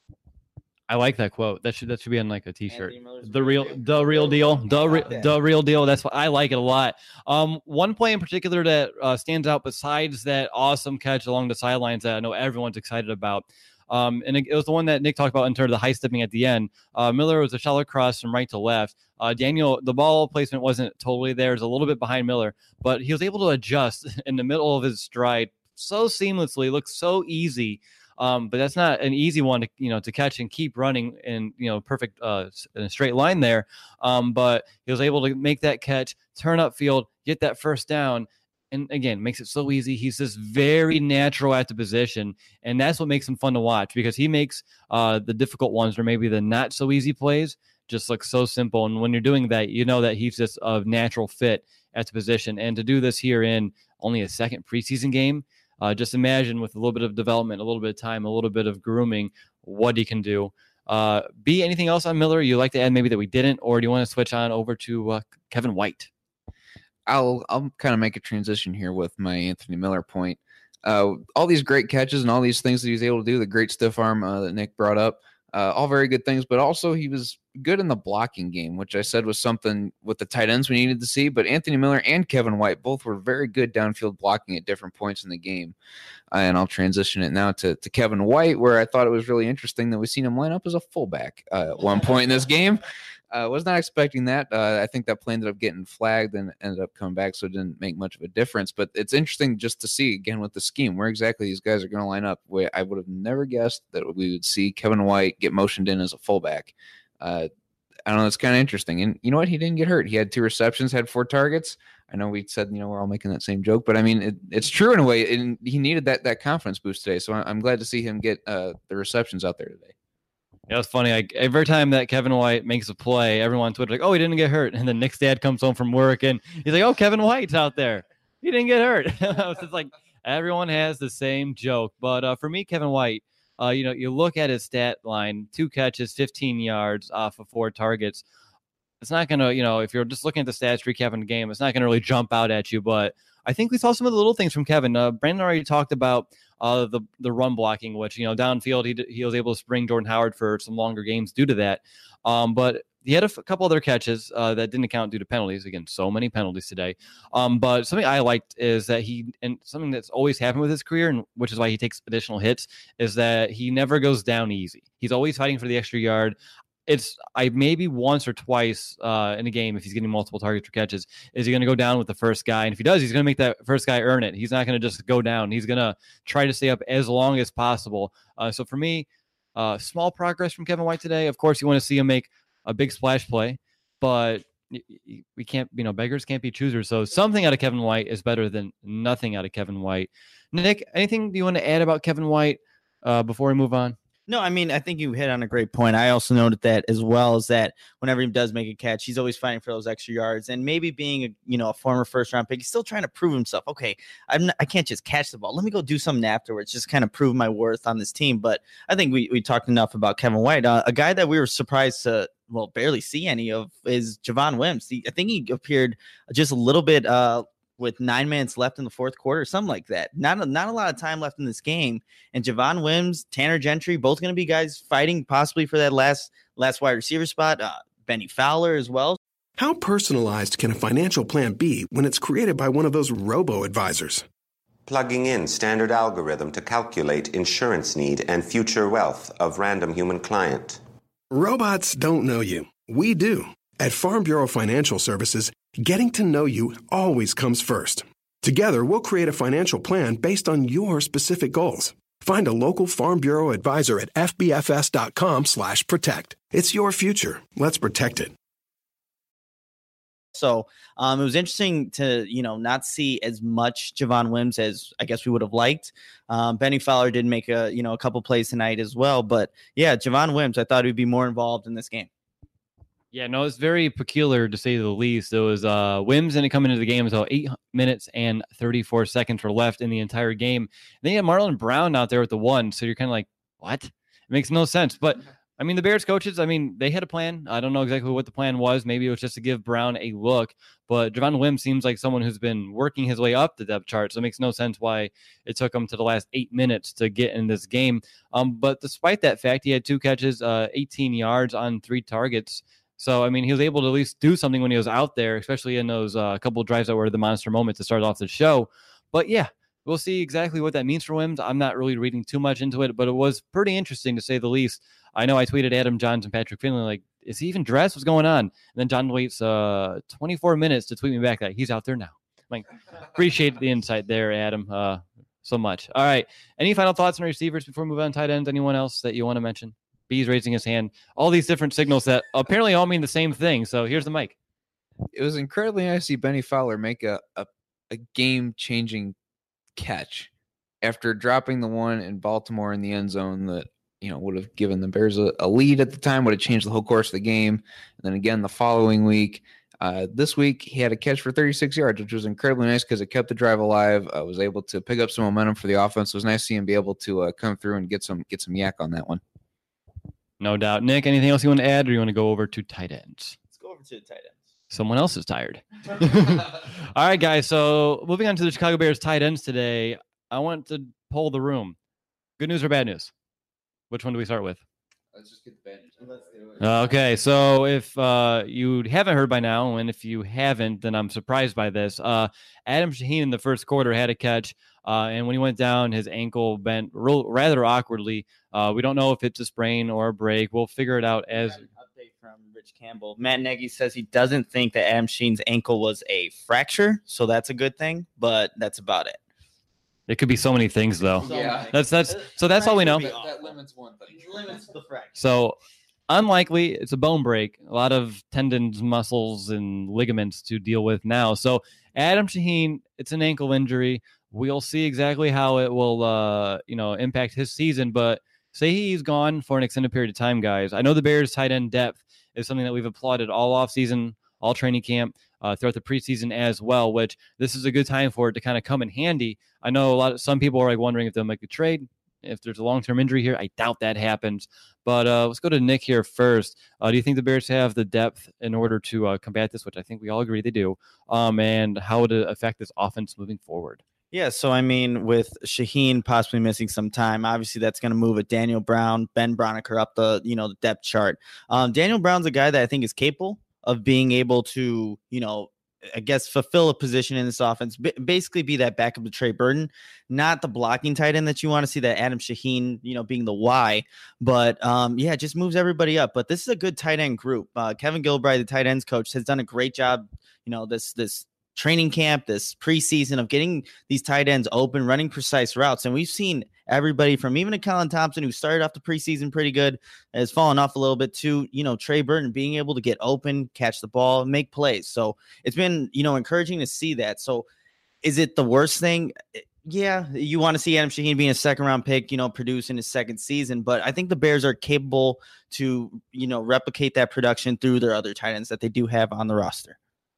Speaker 2: I like that quote. That should that should be on like a t-shirt. The real, the real deal, the re- the real deal. That's what I like it a lot. Um, one play in particular that uh, stands out besides that awesome catch along the sidelines that I know everyone's excited about. Um, and it, it was the one that Nick talked about in terms of the high stepping at the end. Uh, Miller was a shallow cross from right to left. Uh, Daniel, the ball placement wasn't totally there. It was a little bit behind Miller, but he was able to adjust in the middle of his stride so seamlessly. It looked so easy. Um, but that's not an easy one to, you know, to catch and keep running in, you know, perfect uh, in a straight line there. Um, but he was able to make that catch, turn upfield, get that first down. And again, makes it so easy. He's just very natural at the position. And that's what makes him fun to watch because he makes uh, the difficult ones or maybe the not so easy plays just look so simple. And when you're doing that, you know that he's just a natural fit at the position. And to do this here in only a second preseason game, Uh, just imagine with a little bit of development, a little bit of time, a little bit of grooming, what he can do. Uh, B, anything else on Miller you like to add maybe that we didn't, or do you want to switch on over to uh, Kevin White?
Speaker 3: I'll I'll kind of make a transition here with my Anthony Miller point. Uh, all these great catches and all these things that he was able to do, the great stiff arm uh, that Nick brought up, uh, all very good things, but also he was good in the blocking game, which I said was something with the tight ends we needed to see. But Anthony Miller and Kevin White both were very good downfield blocking at different points in the game. Uh, and I'll transition it now to, to Kevin White, where I thought it was really interesting that we've seen him line up as a fullback uh, at one point in this game. I uh, was not expecting that. Uh, I think that play ended up getting flagged and ended up coming back, so it didn't make much of a difference. But it's interesting just to see, again, with the scheme, where exactly these guys are going to line up. I would have never guessed that we would see Kevin White get motioned in as a fullback. Uh, I don't know. It's kind of interesting. And you know what? He didn't get hurt. He had two receptions, had four targets. I know we said, you know, we're all making that same joke, but I mean, it, it's true in a way. And he needed that that confidence boost today. So I'm glad to see him get uh, the receptions out there today.
Speaker 2: Yeah, it's funny. Like every time that Kevin White makes a play, everyone on Twitter like, "Oh, he didn't get hurt." And then Nick's dad comes home from work and he's like, "Oh, Kevin White's out there. He didn't get hurt." It's like everyone has the same joke. But uh, for me, Kevin White, uh, you know, you look at his stat line: two catches, fifteen yards off of four targets. It's not gonna, you know, if you're just looking at the stats, recapping the game, it's not gonna really jump out at you. But I think we saw some of the little things from Kevin. Uh, Brandon already talked about uh, the the run blocking, which, you know, downfield, he, he was able to spring Jordan Howard for some longer games due to that. Um, but he had a f- couple other catches uh, that didn't count due to penalties. Again, so many penalties today. Um, but something I liked is that he, and something that's always happened with his career, and which is why he takes additional hits, is that he never goes down easy. He's always fighting for the extra yard. It's I maybe once or twice uh, in a game, if he's getting multiple targets or catches, is he going to go down with the first guy? And if he does, he's going to make that first guy earn it. He's not going to just go down. He's going to try to stay up as long as possible. Uh, so for me, uh, small progress from Kevin White today. Of course, you want to see him make a big splash play, but we can't, you know, beggars can't be choosers. So something out of Kevin White is better than nothing out of Kevin White. Nick, anything you want to add about Kevin White uh, before we move on?
Speaker 4: No, I mean, I think you hit on a great point. I also noted that as well, is that whenever he does make a catch, he's always fighting for those extra yards. And maybe being a, you know, a former first round pick, he's still trying to prove himself. Okay, I'm not, I can't just catch the ball. Let me go do something afterwards, just kind of prove my worth on this team. But I think we, we talked enough about Kevin White. Uh, a guy that we were surprised to, well, barely see any of is Javon Wims. He, I think he appeared just a little bit uh, with nine minutes left in the fourth quarter, something like that. Not a, not a lot of time left in this game. And Javon Wims, Tanner Gentry, both going to be guys fighting possibly for that last last wide receiver spot. Uh, Benny Fowler as well.
Speaker 5: How personalized can a financial plan be when it's created by one of those robo-advisors?
Speaker 6: Plugging in standard algorithm to calculate insurance need and future wealth of random human client.
Speaker 5: Robots don't know you. We do. At Farm Bureau Financial Services, getting to know you always comes first. Together, we'll create a financial plan based on your specific goals. Find a local Farm Bureau advisor at f b f s dot com slash protect. It's your future. Let's protect it.
Speaker 4: So um, it was interesting to, you know, not see as much Javon Wims as I guess we would have liked. Um, Benny Fowler did make a, you know, a couple plays tonight as well. But yeah, Javon Wims, I thought he'd be more involved in this game.
Speaker 2: Yeah, no, it's very peculiar to say the least. It was uh, Wims didn't come into the game until eight minutes and thirty-four seconds were left in the entire game. And then you had Marlon Brown out there with the one. So you're kind of like, what? It makes no sense. But I mean, the Bears coaches, I mean, they had a plan. I don't know exactly what the plan was. Maybe it was just to give Brown a look. But Javon Wims seems like someone who's been working his way up the depth chart. So it makes no sense why it took him to the last eight minutes to get in this game. Um, but despite that fact, he had two catches, uh, eighteen yards on three targets. So, I mean, he was able to at least do something when he was out there, especially in those uh, couple of drives that were the monster moments to start off the show. But yeah, we'll see exactly what that means for Wims. I'm not really reading too much into it, but it was pretty interesting to say the least. I know I tweeted Adam Johns and Patrick Finley, like, is he even dressed? What's going on? And then John waits uh, twenty-four minutes to tweet me back that he's out there now. Like, appreciate the insight there, Adam, uh, so much. All right. Any final thoughts on receivers before we move on to tight ends? Anyone else that you want to mention? B's raising his hand. All these different signals that apparently all mean the same thing. So here's the mic.
Speaker 3: It was incredibly nice to see Benny Fowler make a, a, a game-changing catch after dropping the one in Baltimore in the end zone that, you know, would have given the Bears a, a lead at the time, would have changed the whole course of the game. And then again the following week. Uh, this week, he had a catch for thirty-six yards, which was incredibly nice because it kept the drive alive. I uh, was able to pick up some momentum for the offense. It was nice to see him be able to uh, come through and get some get some yak on that one.
Speaker 2: No doubt. Nick, anything else you want to add, or you want to go over to tight ends?
Speaker 4: Let's go over to the tight ends.
Speaker 2: Someone else is tired. All right, guys. So moving on to the Chicago Bears tight ends today, I want to poll the room. Good news or bad news? Which one do we start with?
Speaker 3: Let's just get the bad news. Let's do it.
Speaker 2: Okay, so if uh, you haven't heard by now, and if you haven't, then I'm surprised by this. Uh, Adam Shaheen in the first quarter had a catch, uh, and when he went down, his ankle bent real, rather awkwardly. Uh, we don't know if it's a sprain or a break. We'll figure it out as.
Speaker 4: An update from Rich Campbell. Matt Nagy says he doesn't think that Adam Shaheen's ankle was a fracture, so that's a good thing, but that's about it.
Speaker 2: It could be so many things, though.
Speaker 3: Yeah.
Speaker 2: That's that's so that's all we know.
Speaker 3: That, that limits one thing.
Speaker 4: Limits the fracture.
Speaker 2: So unlikely, it's a bone break. A lot of tendons, muscles, and ligaments to deal with now. So Adam Shaheen, it's an ankle injury. We'll see exactly how it will, uh, you know, impact his season. But say he's gone for an extended period of time, guys. I know the Bears' tight end depth is something that we've applauded all offseason, all training camp, uh, throughout the preseason as well, which this is a good time for it to kind of come in handy. I know a lot of some people are like wondering if they'll make a trade. If there's a long-term injury here, I doubt that happens. But uh, let's go to Nick here first. Uh, do you think the Bears have the depth in order to uh, combat this, which I think we all agree they do, um, and how would it affect this offense moving forward?
Speaker 4: Yeah, so I mean, with Shaheen possibly missing some time, obviously that's going to move it. Daniel Brown, Ben Broniker up the you know the depth chart. Um, Daniel Brown's a guy that I think is capable of being able to you know I guess fulfill a position in this offense, B- basically be that backup to Trey Burton, not the blocking tight end that you want to see, that Adam Shaheen you know being the Y, but um, yeah, it just moves everybody up. But this is a good tight end group. Uh, Kevin Gilbride, the tight ends coach, has done a great job. You know this this. training camp, this preseason of getting these tight ends open, running precise routes. And we've seen everybody from even a Colin Thompson, who started off the preseason pretty good, has fallen off a little bit, to, you know, Trey Burton being able to get open, catch the ball, make plays. So it's been, you know, encouraging to see that. So is it the worst thing? Yeah, you want to see Adam Shaheen being a second round pick, you know, produce in his second season. But I think the Bears are capable to, you know, replicate that production through their other tight ends that they do have on the roster.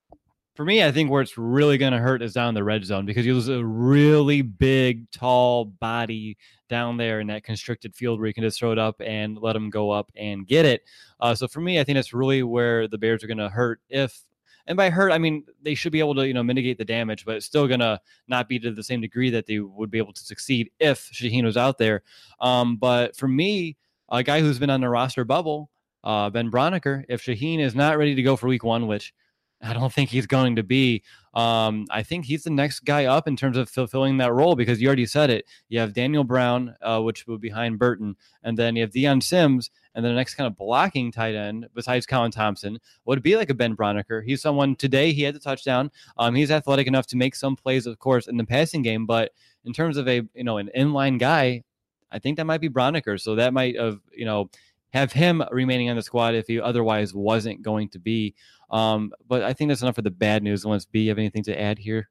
Speaker 2: For me, I think where it's really going to hurt is down in the red zone, because you lose a really big, tall body down there in that constricted field where you can just throw it up and let them go up and get it. Uh, so for me, I think that's really where the Bears are going to hurt. If, and by hurt, I mean they should be able to, you know, mitigate the damage, but it's still going to not be to the same degree that they would be able to succeed if Shaheen was out there. Um, but for me, a guy who's been on the roster bubble, uh, Ben Broniker, if Shaheen is not ready to go for week one, which I don't think he's going to be. Um, I think he's the next guy up in terms of fulfilling that role, because you already said it. You have Daniel Brown, uh, which will be behind Burton, and then you have Deion Sims, and then the next kind of blocking tight end besides Colin Thompson would be like a Ben Broniker. He's someone, today he had the touchdown. Um, he's athletic enough to make some plays, of course, in the passing game, but in terms of a you know an inline guy, I think that might be Broniker. So that might have you know. have him remaining on the squad if he otherwise wasn't going to be. Um, but I think that's enough for the bad news. Unless B, you have anything to add here?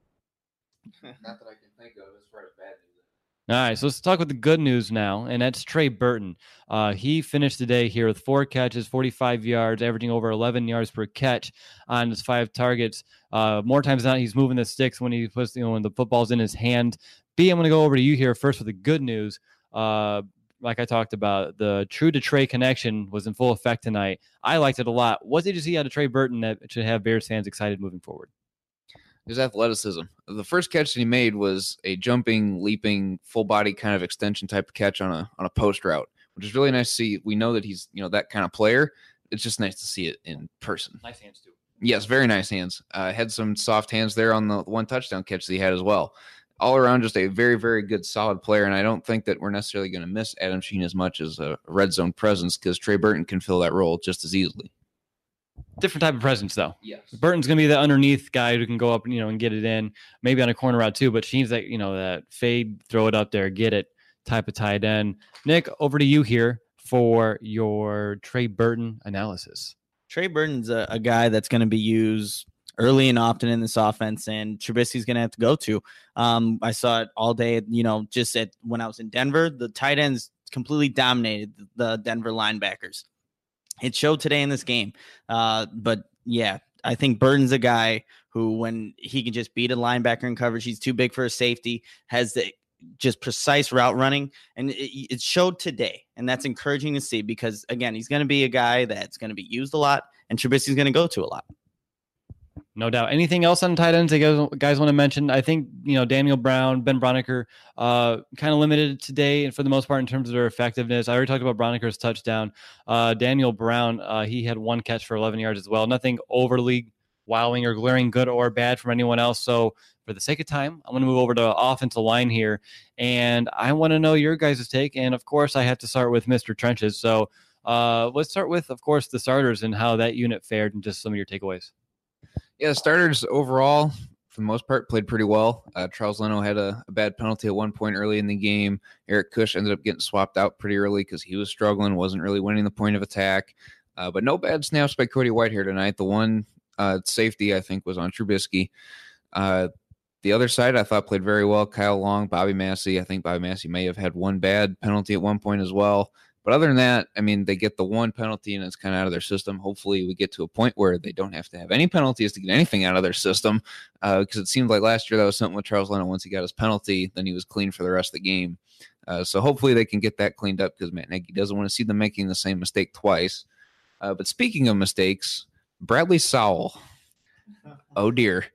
Speaker 3: Not that I can think of as far as bad news.
Speaker 2: All right, so let's talk with the good news now, and that's Trey Burton. Uh, he finished the day here with four catches, forty-five yards, averaging over eleven yards per catch on his five targets. Uh, more times than not, he's moving the sticks when he puts, you know, when the football's in his hand. B, I'm going to go over to you here first with the good news. Uh, Like I talked about, the true to Trey connection was in full effect tonight. I liked it a lot. What did you see out of Trey Burton that should have Bears fans excited moving forward?
Speaker 3: His athleticism. The first catch that he made was a jumping, leaping, full body kind of extension type of catch on a on a post route, which is really nice to see. We know that he's you know that kind of player. It's just nice to see it in person.
Speaker 2: Nice hands too.
Speaker 3: Yes, very nice hands. Uh, had some soft hands there on the one touchdown catch that he had as well. All around, just a very, very good, solid player. And I don't think that we're necessarily going to miss Adam Shaheen as much as a red zone presence, because Trey Burton can fill that role just as easily.
Speaker 2: Different type of presence, though.
Speaker 3: Yes.
Speaker 2: Burton's going to be the underneath guy who can go up, you know, and get it in, maybe on a corner route too. But Shaheen's that, you know, that fade, throw it up there, get it type of tight end. Nick, over to you here for your Trey Burton analysis.
Speaker 4: Trey Burton's a, a guy that's going to be used early and often in this offense, and Trubisky's going to have to go to. Um, I saw it all day, you know, just at when I was in Denver, the tight ends completely dominated the Denver linebackers. It showed today in this game. Uh, but yeah, I think Burton's a guy who, when he can just beat a linebacker in coverage, he's too big for a safety, has the just precise route running, and it, it showed today. And that's encouraging to see, because again, he's going to be a guy that's going to be used a lot, and Trubisky's going to go to a lot.
Speaker 2: No doubt. Anything else on tight ends that you guys, guys want to mention? I think, you know, Daniel Brown, Ben Broniker, uh, kind of limited today and for the most part in terms of their effectiveness. I already talked about Broniker's touchdown. Uh, Daniel Brown, uh, he had one catch for eleven yards as well. Nothing overly wowing or glaring good or bad from anyone else. So for the sake of time, I'm going to move over to offensive line here. And I want to know your guys' take. And of course, I have to start with Mister Trenches. So uh, let's start with, of course, the starters and how that unit fared and just some of your takeaways.
Speaker 3: Yeah, the starters overall, for the most part, played pretty well. Uh, Charles Leno had a, a bad penalty at one point early in the game. Eric Kush ended up getting swapped out pretty early because he was struggling, wasn't really winning the point of attack. Uh, but no bad snaps by Cody Whitehair tonight. The one uh, safety, I think, was on Trubisky. Uh, the other side, I thought, played very well. Kyle Long, Bobby Massey. I think Bobby Massey may have had one bad penalty at one point as well. But other than that, I mean, they get the one penalty and it's kind of out of their system. Hopefully we get to a point where they don't have to have any penalties to get anything out of their system, because uh, it seemed like last year that was something with Charles Leno. Once he got his penalty, then he was clean for the rest of the game. Uh, so hopefully they can get that cleaned up because Matt Nagy doesn't want to see them making the same mistake twice. Uh, but speaking of mistakes, Bradley Sowell, oh dear,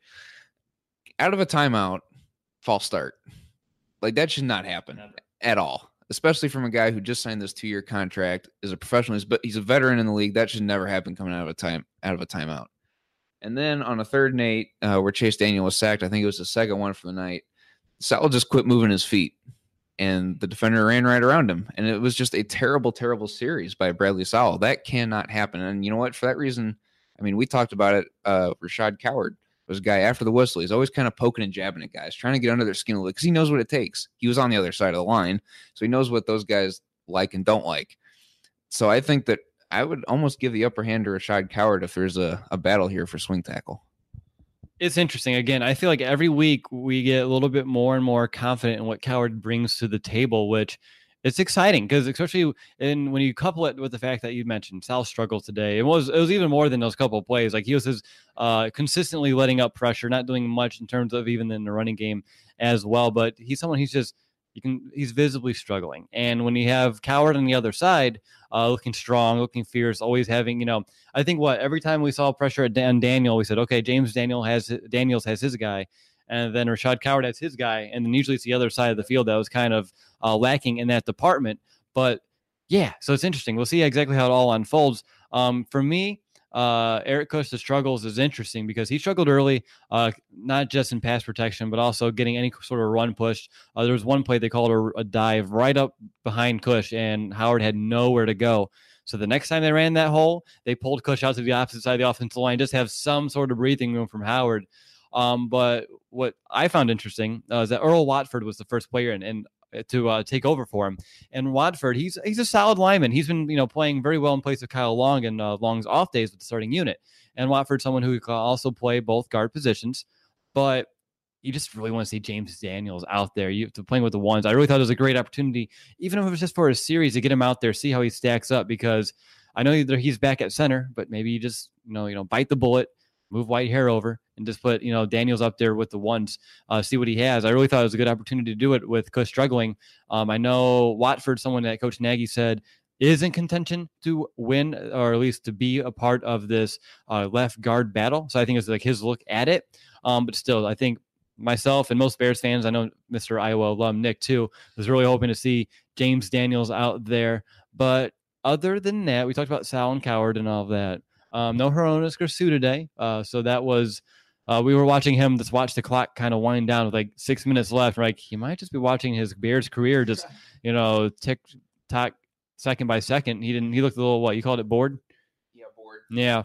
Speaker 3: out of a timeout, false start. Like that should not happen at all, especially from a guy who just signed this two-year contract, is a professional, but he's a veteran in the league. That should never happen coming out of a time out of a timeout. And then on a third and eight, uh, where Chase Daniel was sacked, I think it was the second one for the night, Sowell just quit moving his feet, and the defender ran right around him. And it was just a terrible, terrible series by Bradley Sowell. That cannot happen. And you know what? For that reason, I mean, we talked about it. Uh, Rashad Coward was a guy after the whistle. He's always kind of poking and jabbing at guys, trying to get under their skin a little because he knows what it takes. He was on the other side of the line, so he knows what those guys like and don't like. So I think that I would almost give the upper hand to Rashad Coward if there's a, a battle here for swing tackle.
Speaker 2: It's interesting. Again, I feel like every week we get a little bit more and more confident in what Coward brings to the table, which it's exciting because especially in when you couple it with the fact that you mentioned Sal struggled today. It was it was even more than those couple of plays. Like he was his, uh, consistently letting up pressure, not doing much in terms of even in the running game as well. But he's someone he's just you can he's visibly struggling. And when you have Coward on the other side, uh, looking strong, looking fierce, always having you know, I think what every time we saw pressure at Dan Daniel, we said, okay, James Daniel has Daniels has his guy. And then Rashad Coward has his guy, and then usually it's the other side of the field that was kind of uh, lacking in that department. But yeah, so it's interesting. We'll see exactly how it all unfolds. Um, for me, uh, Eric Kush's struggles is interesting because he struggled early, uh, not just in pass protection, but also getting any sort of run push. Uh, there was one play they called a, a dive right up behind Kush, and Howard had nowhere to go. So the next time they ran that hole, they pulled Kush out to the opposite side of the offensive line, just have some sort of breathing room from Howard. Um, but what I found interesting uh, is that Earl Watford was the first player and, and to uh, take over for him. And Watford, he's he's a solid lineman. He's been you know playing very well in place of Kyle Long and uh, Long's off days with the starting unit. And Watford's someone who can also play both guard positions. But you just really want to see James Daniels out there. You to playing with the ones. I really thought it was a great opportunity, even if it was just for a series, to get him out there, see how he stacks up. Because I know either he's back at center, but maybe you just you know you know bite the bullet, move Whitehair over, and just put, you know, Daniels up there with the ones, uh, see what he has. I really thought it was a good opportunity to do it with Kush struggling. Um, I know Watford, someone that Coach Nagy said is in contention to win, or at least to be a part of this uh, left guard battle. So I think it's like his look at it. Um, but still, I think myself and most Bears fans, I know Mister Iowa alum Nick too, was really hoping to see James Daniels out there. But other than that, we talked about Sal and Coward and all of that. Um, no Hronis Grasu today. Uh, so that was, uh, we were watching him just watch the clock kind of wind down with like six minutes left. We're like, he might just be watching his Bears career just, you know, tick tock second by second. He didn't, he looked a little, what you called it, bored?
Speaker 3: Yeah, bored.
Speaker 2: Yeah.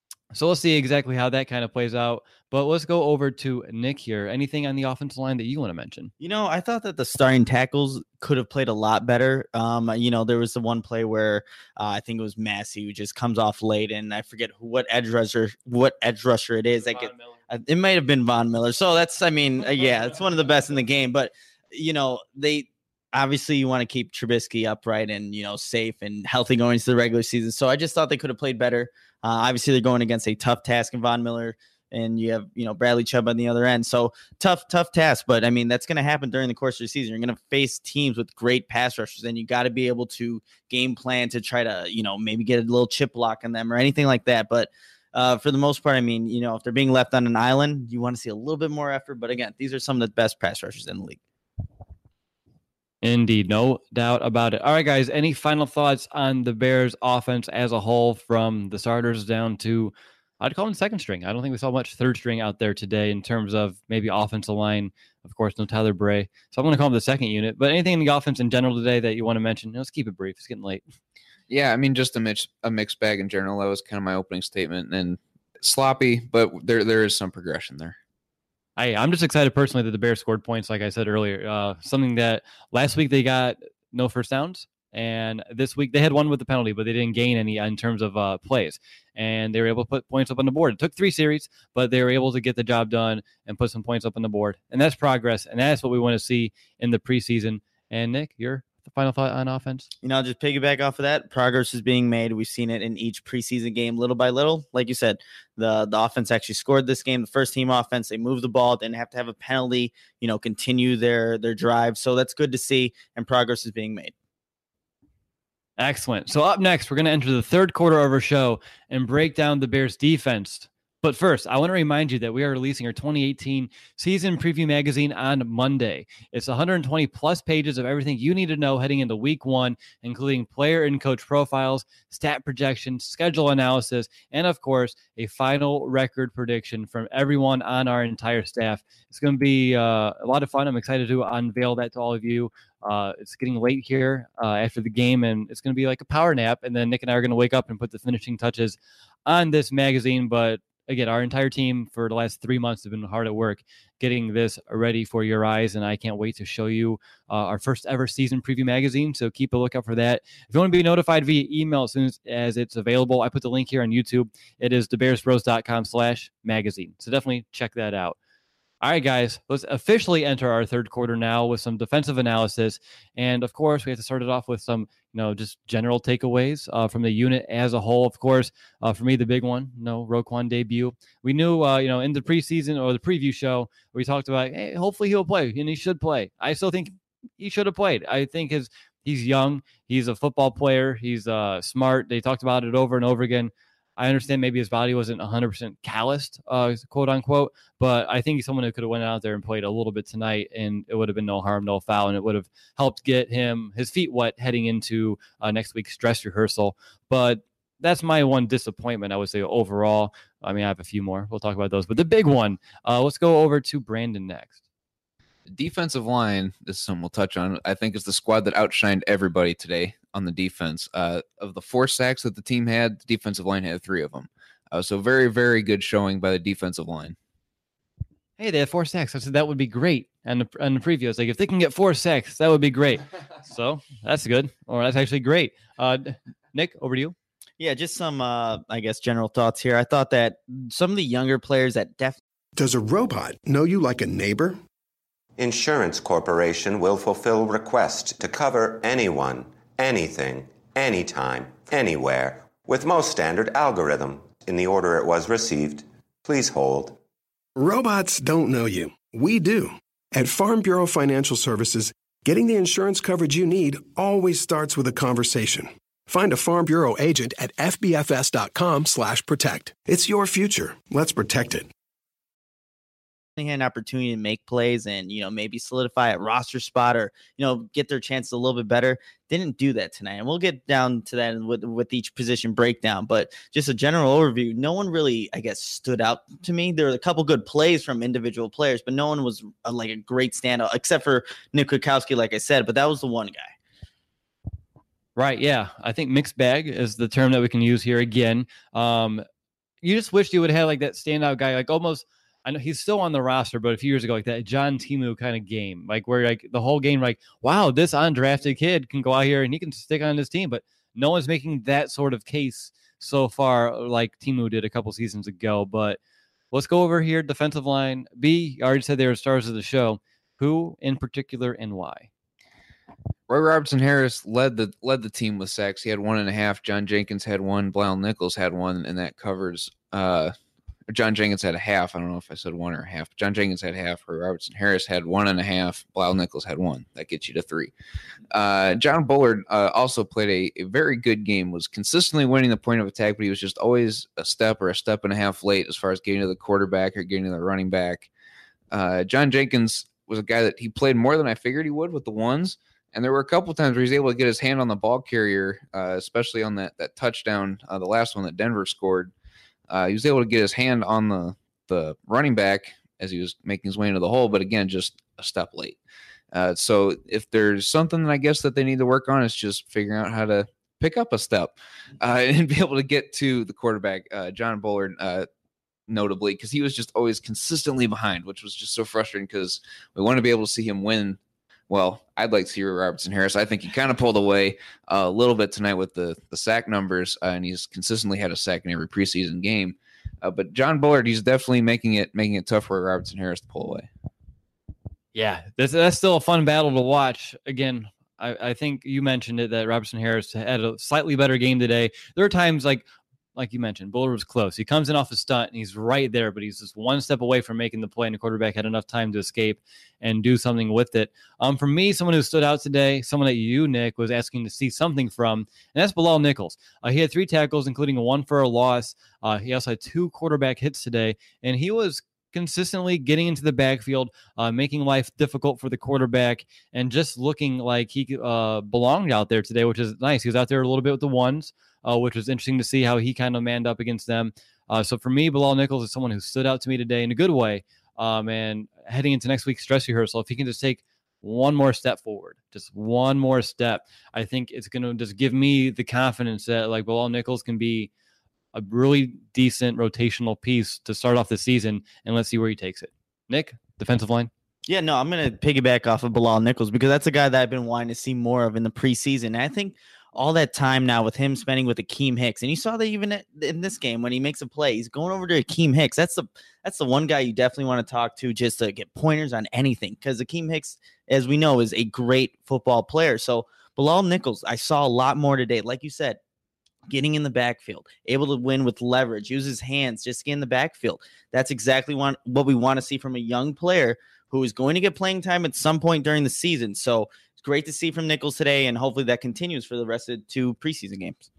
Speaker 2: So let's see exactly how that kind of plays out. But let's go over to Nick here. Anything on the offensive line that you want to mention?
Speaker 4: You know, I thought that the starting tackles could have played a lot better. Um, you know, there was the one play where uh, I think it was Massey who just comes off late, and I forget who, what edge rusher, what edge rusher it is. I get, uh, it might have been Von Miller. So that's, I mean, uh, yeah, it's one of the best in the game. But you know, they obviously you want to keep Trubisky upright and you know safe and healthy going into the regular season. So I just thought they could have played better. Uh, obviously, they're going against a tough task in Von Miller. And you have, you know, Bradley Chubb on the other end. So tough, tough task. But I mean, that's going to happen during the course of the season. You're going to face teams with great pass rushers, and you got to be able to game plan to try to, you know, maybe get a little chip block on them or anything like that. But uh, for the most part, I mean, you know, if they're being left on an island, you want to see a little bit more effort. But again, these are some of the best pass rushers in the league.
Speaker 2: Indeed, no doubt about it. All right, guys, any final thoughts on the Bears offense as a whole, from the starters down to, I'd call them second string. I don't think we saw much third string out there today in terms of maybe offensive line. Of course, no Tyler Bray. So I'm going to call him the second unit. But anything in the offense in general today that you want to mention? Let's keep it brief. It's getting late.
Speaker 3: Yeah, I mean, just a mix, a mixed bag in general. That was kind of my opening statement. And sloppy, but there there is some progression there.
Speaker 2: I, I'm just excited personally that the Bears scored points, like I said earlier. Uh, something that last week they got no first downs. And this week they had one with the penalty, but they didn't gain any in terms of uh, plays. And they were able to put points up on the board. It took three series, but they were able to get the job done and put some points up on the board. And that's progress. And that's what we want to see in the preseason. And Nick, your final thought on offense?
Speaker 4: You know, just piggyback off of that, progress is being made. We've seen it in each preseason game, little by little. Like you said, the the offense actually scored this game. The first team offense, they moved the ball, didn't have to have a penalty, you know, continue their their drive. So that's good to see, and progress is being made.
Speaker 2: Excellent. So up next, we're going to enter the third quarter of our show and break down the Bears defense. But first, I want to remind you that we are releasing our twenty eighteen season preview magazine on Monday. It's one hundred twenty plus pages of everything you need to know heading into week one, including player and coach profiles, stat projections, schedule analysis, and of course, a final record prediction from everyone on our entire staff. It's going to be uh, a lot of fun. I'm excited to unveil that to all of you. Uh, it's getting late here uh, after the game, and it's going to be like a power nap. And then Nick and I are going to wake up and put the finishing touches on this magazine. But again, our entire team for the last three months have been hard at work getting this ready for your eyes, and I can't wait to show you uh, our first ever season preview magazine. So keep a lookout for that. If you want to be notified via email as soon as, as it's available, I put the link here on YouTube. It is thebearsbros.com slash magazine. So definitely check that out. All right, guys, let's officially enter our third quarter now with some defensive analysis. And, of course, we have to start it off with some, you know, just general takeaways uh, from the unit as a whole. Of course, uh, for me, the big one, you know, Roquan debut. We knew, uh, you know, in the preseason or the preview show, we talked about, hey, hopefully he'll play, and he should play. I still think he should have played. I think his he's young. He's a football player. He's uh, smart. They talked about it over and over again. I understand maybe his body wasn't one hundred percent calloused, uh, quote unquote, but I think he's someone who could have went out there and played a little bit tonight, and it would have been no harm, no foul, and it would have helped get him his feet wet heading into uh, next week's dress rehearsal. But that's my one disappointment, I would say, overall. I mean, I have a few more. We'll talk about those. But the big one, uh, let's go over to Brandon next.
Speaker 3: Defensive line, this is something we'll touch on, I think is the squad that outshined everybody today on the defense. Uh, of the four sacks that the team had, the defensive line had three of them. Uh, so very, very good showing by the defensive line.
Speaker 2: Hey, they had four sacks. I said that would be great. And the, and the preview, I was like, if they can get four sacks, that would be great. So that's good. Or that's actually great. Uh, Nick, over to you.
Speaker 4: Yeah, just some, uh, I guess, general thoughts here. I thought that some of the younger players that definitely.
Speaker 5: Does a robot know you like a neighbor?
Speaker 6: Insurance Corporation will fulfill requests to cover anyone, anything, anytime, anywhere, with most standard algorithm in the order it was received. Please hold.
Speaker 5: Robots don't know you. We do. At Farm Bureau Financial Services, getting the insurance coverage you need always starts with a conversation. Find a Farm Bureau agent at fbfs.com slash protect. It's your future. Let's protect it.
Speaker 4: Had an opportunity to make plays and, you know, maybe solidify a roster spot or, you know, get their chances a little bit better. Didn't do that tonight. And we'll get down to that with, with each position breakdown. But just a general overview, no one really, I guess, stood out to me. There were a couple good plays from individual players, but no one was a, like a great standout except for Nick Kwiatkowski, like I said. But that was the one guy.
Speaker 2: Right. Yeah. I think mixed bag is the term that we can use here again. Um, you just wish you would have like that standout guy, like almost. I know he's still on the roster, but a few years ago, like that John Timu kind of game, like where like the whole game, like, wow, this undrafted kid can go out here and he can stick on his team, but no one's making that sort of case so far, like Timu did a couple seasons ago. But let's go over here. Defensive line. B, I already said they were stars of the show. Who in particular and why?
Speaker 3: Roy Robertson Harris led the led the team with sacks. He had one and a half. John Jenkins had one. Blal Nichols had one, and that covers. Uh, John Jenkins had a half. I don't know if I said one or a half. John Jenkins had half. Roy Robertson Harris had one and a half. Blal Nichols had one. That gets you to three. Uh, John Bullard uh, also played a, a very good game, was consistently winning the point of attack, but he was just always a step or a step and a half late as far as getting to the quarterback or getting to the running back. Uh, John Jenkins was a guy that he played more than I figured he would with the ones. And there were a couple times where he was able to get his hand on the ball carrier, uh, especially on that, that touchdown, uh, the last one that Denver scored. Uh, he was able to get his hand on the, the running back as he was making his way into the hole, but again, just a step late. Uh, so if there's something that I guess that they need to work on, it's just figuring out how to pick up a step uh, and be able to get to the quarterback, uh, John Bullard, uh, notably, because he was just always consistently behind, which was just so frustrating because we want to be able to see him win. Well, I'd like to see Robertson Harris. I think he kind of pulled away uh, a little bit tonight with the, the sack numbers, uh, and he's consistently had a sack in every preseason game. Uh, but John Bullard, he's definitely making it making it tough for Robertson Harris to pull away.
Speaker 2: Yeah, that's, that's still a fun battle to watch. Again, I, I think you mentioned it that Robertson Harris had a slightly better game today. There are times like like you mentioned, Bullard was close. He comes in off a stunt and he's right there, but he's just one step away from making the play, and the quarterback had enough time to escape and do something with it. Um, for me, someone who stood out today, someone that you, Nick, was asking to see something from, and that's Bilal Nichols. Uh, he had three tackles, including a one for a loss. Uh, he also had two quarterback hits today, and he was consistently getting into the backfield, uh, making life difficult for the quarterback, and just looking like he uh, belonged out there today, which is nice. He was out there a little bit with the ones, uh, which was interesting to see how he kind of manned up against them. Uh, so for me, Bilal Nichols is someone who stood out to me today in a good way. Um, and heading into next week's stress rehearsal, if he can just take one more step forward, just one more step, I think it's going to just give me the confidence that like Bilal Nichols can be a really decent rotational piece to start off the season, and let's see where he takes it. Nick, defensive line.
Speaker 4: Yeah, no, I'm going to piggyback off of Bilal Nichols because that's a guy that I've been wanting to see more of in the preseason. And I think all that time now with him spending with Akeem Hicks, and you saw that even in this game when he makes a play, he's going over to Akeem Hicks. That's the that's the one guy you definitely want to talk to just to get pointers on anything, because Akeem Hicks, as we know, is a great football player. So Bilal Nichols, I saw a lot more today. Like you said, getting in the backfield, able to win with leverage, use his hands, just get in the backfield. That's exactly what, what we want to see from a young player who is going to get playing time at some point during the season. So it's great to see from Nichols today, and hopefully that continues for the rest of the two preseason games.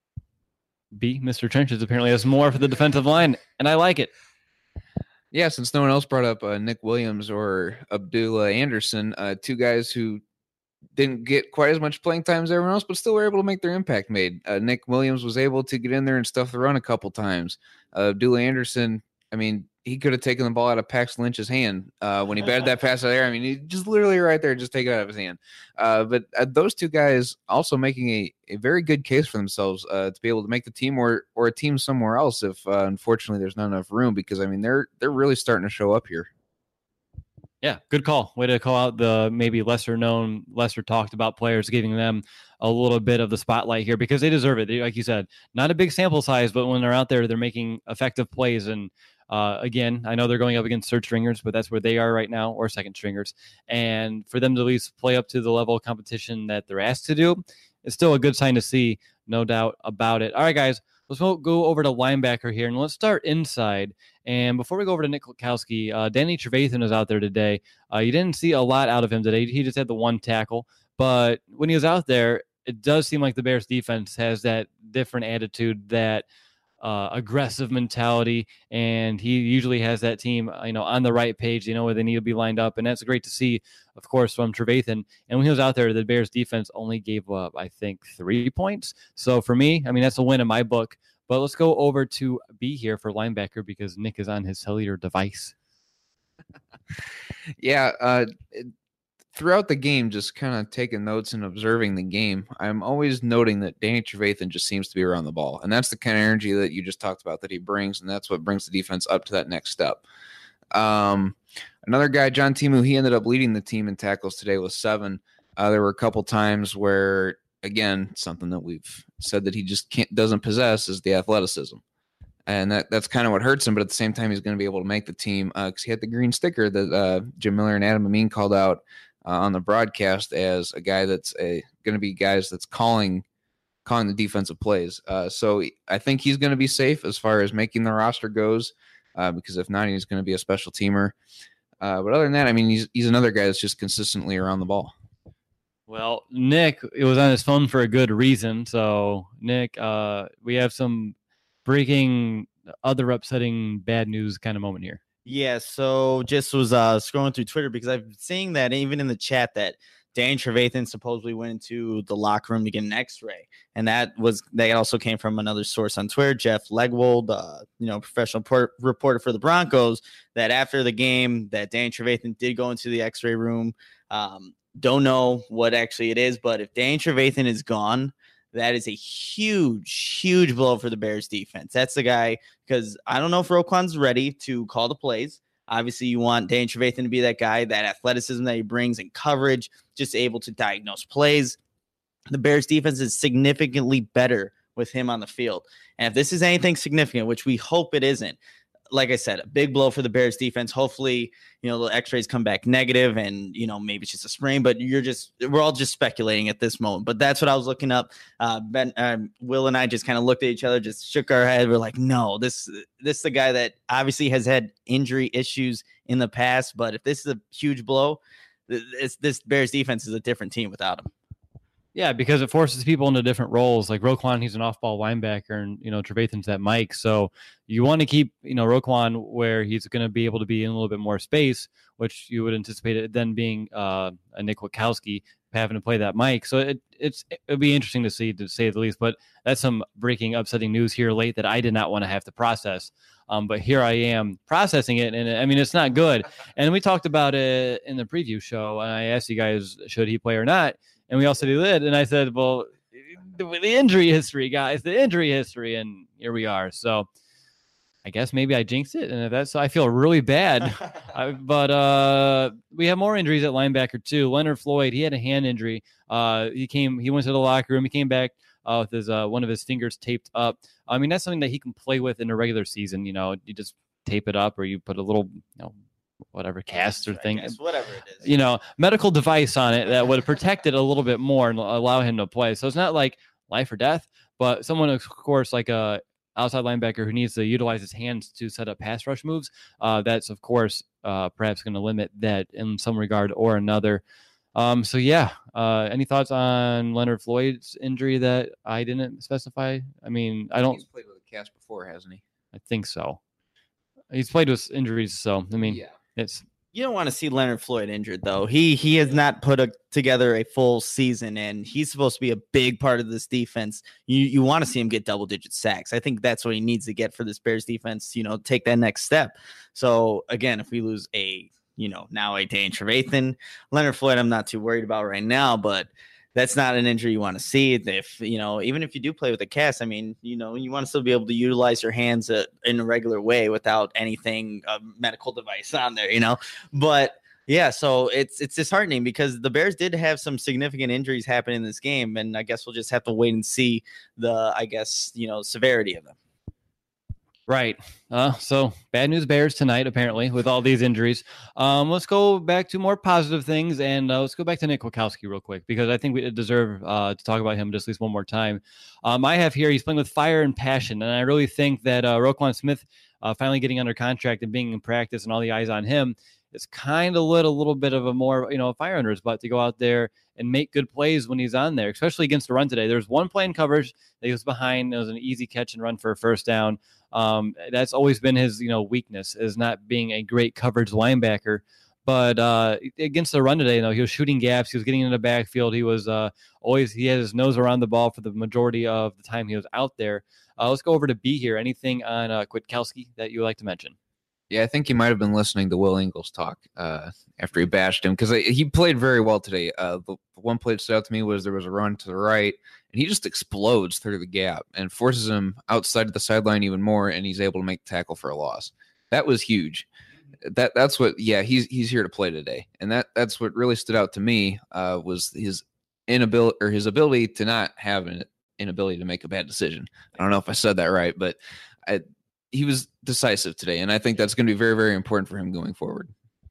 Speaker 2: B, Mister Trenches apparently has more for the defensive line, and I like it.
Speaker 3: Yeah, since no one else brought up uh, Nick Williams or Abdullah Anderson, uh, two guys who didn't get quite as much playing time as everyone else, but still were able to make their impact made. Uh, Nick Williams was able to get in there and stuff the run a couple times. Uh, Abdullah Anderson, I mean, he could have taken the ball out of Pax Lynch's hand uh, when he batted that pass out there. I mean, he just literally right there, just take it out of his hand. Uh, but uh, those two guys also making a, a very good case for themselves uh, to be able to make the team or or a team somewhere else if uh, unfortunately there's not enough room, because I mean they're they're really starting to show up here.
Speaker 2: Yeah, good call. Way to call out the maybe lesser known, lesser talked about players, giving them a little bit of the spotlight here because they deserve it. They, like you said, not a big sample size, but when they're out there, they're making effective plays. And uh, again, I know they're going up against third stringers, but that's where they are right now, or second stringers. And for them to at least play up to the level of competition that they're asked to do, it's still a good sign to see, no doubt about it. All right, guys, let's go over to linebacker here, and let's start inside. And before we go over to Nick Kwiatkowski, uh, Danny Trevathan is out there today. Uh, you didn't see a lot out of him today. He just had the one tackle. But when he was out there, it does seem like the Bears defense has that different attitude, that uh, aggressive mentality, and he usually has that team, you know, on the right page. They know where they need to be lined up, and that's great to see, of course, from Trevathan. And when he was out there, the Bears defense only gave up, I think, three points. So for me, I mean, that's a win in my book. But let's go over to B here for linebacker because Nick is on his cellular device.
Speaker 3: yeah, uh, throughout the game, just kind of taking notes and observing the game, I'm always noting that Danny Trevathan just seems to be around the ball. And that's the kind of energy that you just talked about that he brings, and that's what brings the defense up to that next step. Um, another guy, John Timu, he ended up leading the team in tackles today with seven. Uh, there were a couple times where, again, something that we've said that he just can't doesn't possess is the athleticism. And that, that's kind of what hurts him, but at the same time, he's going to be able to make the team because uh, he had the green sticker that uh, Jim Miller and Adam Amin called out uh, on the broadcast as a guy that's a, going to be guys that's calling calling the defensive plays. Uh, so I think he's going to be safe as far as making the roster goes uh, because if not, he's going to be a special teamer. Uh, but other than that, I mean, he's he's another guy that's just consistently around the ball.
Speaker 2: Well, Nick, it was on his phone for a good reason. So, Nick, uh, we have some breaking, other upsetting, bad news kind of moment here.
Speaker 4: Yeah, so just was uh, scrolling through Twitter because I've been seeing that even in the chat that Danny Trevathan supposedly went into the locker room to get an X-ray, and that was that also came from another source on Twitter, Jeff Legwold, uh, you know, professional por- reporter for the Broncos. That after the game, that Danny Trevathan did go into the X-ray room. Um, Don't know what actually it is, but if Danny Trevathan is gone, that is a huge, huge blow for the Bears defense. That's the guy, because I don't know if Roquan's ready to call the plays. Obviously, you want Danny Trevathan to be that guy, that athleticism that he brings in coverage, just able to diagnose plays. The Bears defense is significantly better with him on the field. And if this is anything significant, which we hope it isn't, like I said, a big blow for the Bears defense. Hopefully, you know, the x-rays come back negative and, you know, maybe it's just a sprain, but you're just, we're all just speculating at this moment. But that's what I was looking up. Uh, Ben, um, Will and I just kind of looked at each other, just shook our head. We're like, no, this, this is the guy that obviously has had injury issues in the past. But if this is a huge blow, this, this Bears defense is a different team without him.
Speaker 2: Yeah, because it forces people into different roles. Like Roquan, he's an off-ball linebacker, and you know Trevathan's that Mike. So you want to keep you know Roquan where he's going to be able to be in a little bit more space, which you would anticipate it then being uh, a Nick Witkowski having to play that Mike. So it it's it'll be interesting to see, to say the least. But that's some breaking, upsetting news here late that I did not want to have to process. Um, but here I am processing it, and I mean it's not good. And we talked about it in the preview show, and I asked you guys should he play or not. And we all said he did. And I said, well, the, the injury history, guys, the injury history. And here we are. So I guess maybe I jinxed it. And if that's, I feel really bad. I, but uh, we have more injuries at linebacker, too. Leonard Floyd, he had a hand injury. Uh, he came, he went to the locker room. He came back uh, with his uh, one of his fingers taped up. I mean, that's something that he can play with in a regular season. You know, you just tape it up or you put a little, you know, whatever cast or thing,
Speaker 4: guess, whatever it is,
Speaker 2: you know, medical device on it that would protect it a little bit more and allow him to play. So it's not like life or death, but someone, of course, like a outside linebacker who needs to utilize his hands to set up pass rush moves. Uh, that's of course uh, perhaps going to limit that in some regard or another. Um, so yeah, uh, any thoughts on Leonard Floyd's injury that I didn't specify? I mean, I don't.
Speaker 3: He's played with a cast before, hasn't he?
Speaker 2: I think so. He's played with injuries, so I mean,
Speaker 3: yeah.
Speaker 2: It's
Speaker 4: you don't want to see Leonard Floyd injured though. He he has not put a, together a full season, and he's supposed to be a big part of this defense. You you want to see him get double digit sacks. I think that's what he needs to get for this Bears defense. You know, take that next step. So again, if we lose a you know now a Dane Trevathan, Leonard Floyd, I'm not too worried about right now, but that's not an injury you want to see. If, you know, even if you do play with a cast, I mean, you know, you want to still be able to utilize your hands uh, in a regular way without anything, uh, medical device on there, you know, but yeah, so it's, it's disheartening because the Bears did have some significant injuries happen in this game. And I guess we'll just have to wait and see the, I guess, you know, severity of them.
Speaker 2: Right. Uh, so bad news Bears tonight, apparently, with all these injuries. Um, let's go back to more positive things, and uh, let's go back to Nick Witkowski real quick, because I think we deserve uh, to talk about him just at least one more time. Um, I have here, he's playing with fire and passion, and I really think that uh, Roquan Smith uh, finally getting under contract and being in practice and all the eyes on him, it's kind of lit a little bit of a more, you know, fire under his butt to go out there and make good plays when he's on there, especially against the run today. There's one play in coverage that he was behind. It was an easy catch and run for a first down. Um, that's always been his, you know, weakness, is not being a great coverage linebacker. But uh, against the run today, you know, he was shooting gaps. He was getting in the backfield. He was uh, always, he had his nose around the ball for the majority of the time he was out there. Uh, let's go over to B here. Anything on uh, Witkowski that you would like to mention?
Speaker 3: Yeah, I think he might have been listening to Will Ingles talk uh, after he bashed him, because he played very well today. Uh, the, the one play that stood out to me was there was a run to the right, and he just explodes through the gap and forces him outside of the sideline even more, and he's able to make the tackle for a loss. That was huge. That that's what. Yeah, he's he's here to play today, and that that's what really stood out to me uh, was his inability or his ability to not have an inability to make a bad decision. I don't know if I said that right, but I. He was decisive today, and I think that's going to be very, very important for him going forward.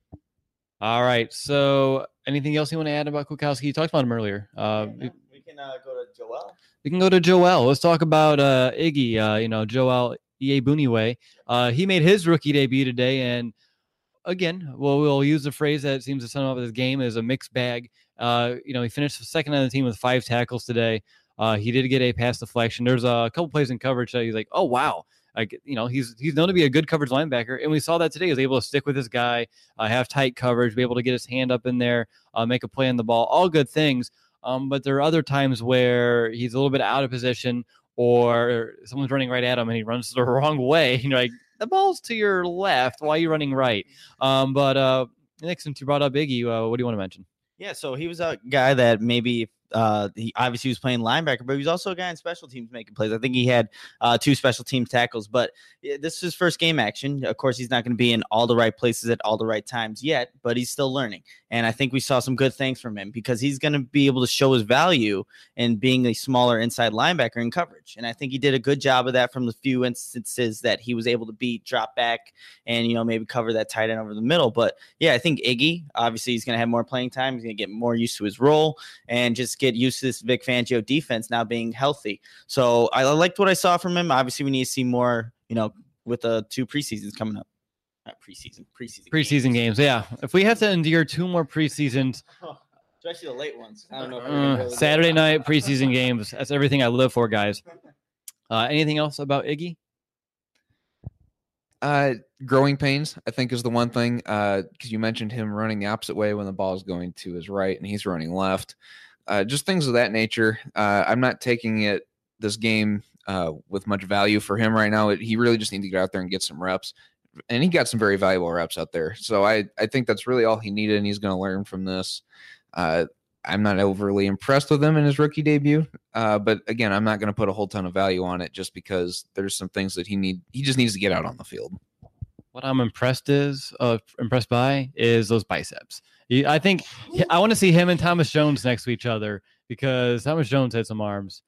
Speaker 2: All right. So anything else you want to add about Witkowski? You talked about him earlier. Uh,
Speaker 4: yeah, we can uh, go to Joel.
Speaker 2: We can go to Joel. Let's talk about uh, Iggy, uh, you know, Joel Iyiegbuniwe. Uh, he made his rookie debut today, and again, well, we'll use the phrase that seems to sum up his game as a mixed bag. Uh, you know, he finished second on the team with five tackles today. Uh, he did get a pass deflection. There's a couple plays in coverage that he's like, oh, wow. Like, you know, he's he's known to be a good coverage linebacker, and we saw that today. He was able to stick with his guy, uh, have tight coverage, be able to get his hand up in there, uh, make a play on the ball, all good things. Um, but there are other times where he's a little bit out of position, or someone's running right at him and he runs the wrong way. You know, like, the ball's to your left. Why are you running right? Um, but uh, Nick, since you brought up Iggy, uh, what do you want to mention?
Speaker 4: Yeah, so he was a guy that maybe uh, he obviously was playing linebacker, but he was also a guy in special teams making plays. I think he had uh, two special teams tackles, but this is his first game action. Of course, he's not going to be in all the right places at all the right times yet, but he's still learning. And I think we saw some good things from him because he's going to be able to show his value in being a smaller inside linebacker in coverage. And I think he did a good job of that from the few instances that he was able to beat, drop back, and, you know, maybe cover that tight end over the middle. But yeah, I think Iggy, obviously he's going to have more playing time. He's going to get more used to his role and just get used to this Vic Fangio defense now being healthy. So I liked what I saw from him. Obviously we need to see more, you know, with the two preseasons coming up. Not preseason, preseason.
Speaker 2: Preseason games. games. Yeah. If we have to endure two more preseasons,
Speaker 4: oh, especially the late ones. I don't know. If
Speaker 2: uh, really Saturday night preseason games. That's everything I live for, guys. Uh, anything else about Iggy?
Speaker 3: Uh, growing pains, I think, is the one thing. Uh, because you mentioned him running the opposite way when the ball is going to his right, and he's running left. Uh, just things of that nature. Uh, I'm not taking it this game uh, with much value for him right now. It, he really just needs to get out there and get some reps. And he got some very valuable reps out there. So I, I think that's really all he needed, and he's going to learn from this. Uh, I'm not overly impressed with him in his rookie debut. Uh, but again, I'm not going to put a whole ton of value on it just because there's some things that he need. He just needs to get out on the field.
Speaker 2: What I'm impressed is uh, impressed by is those biceps. I think I want to see him and Thomas Jones next to each other because Thomas Jones had some arms.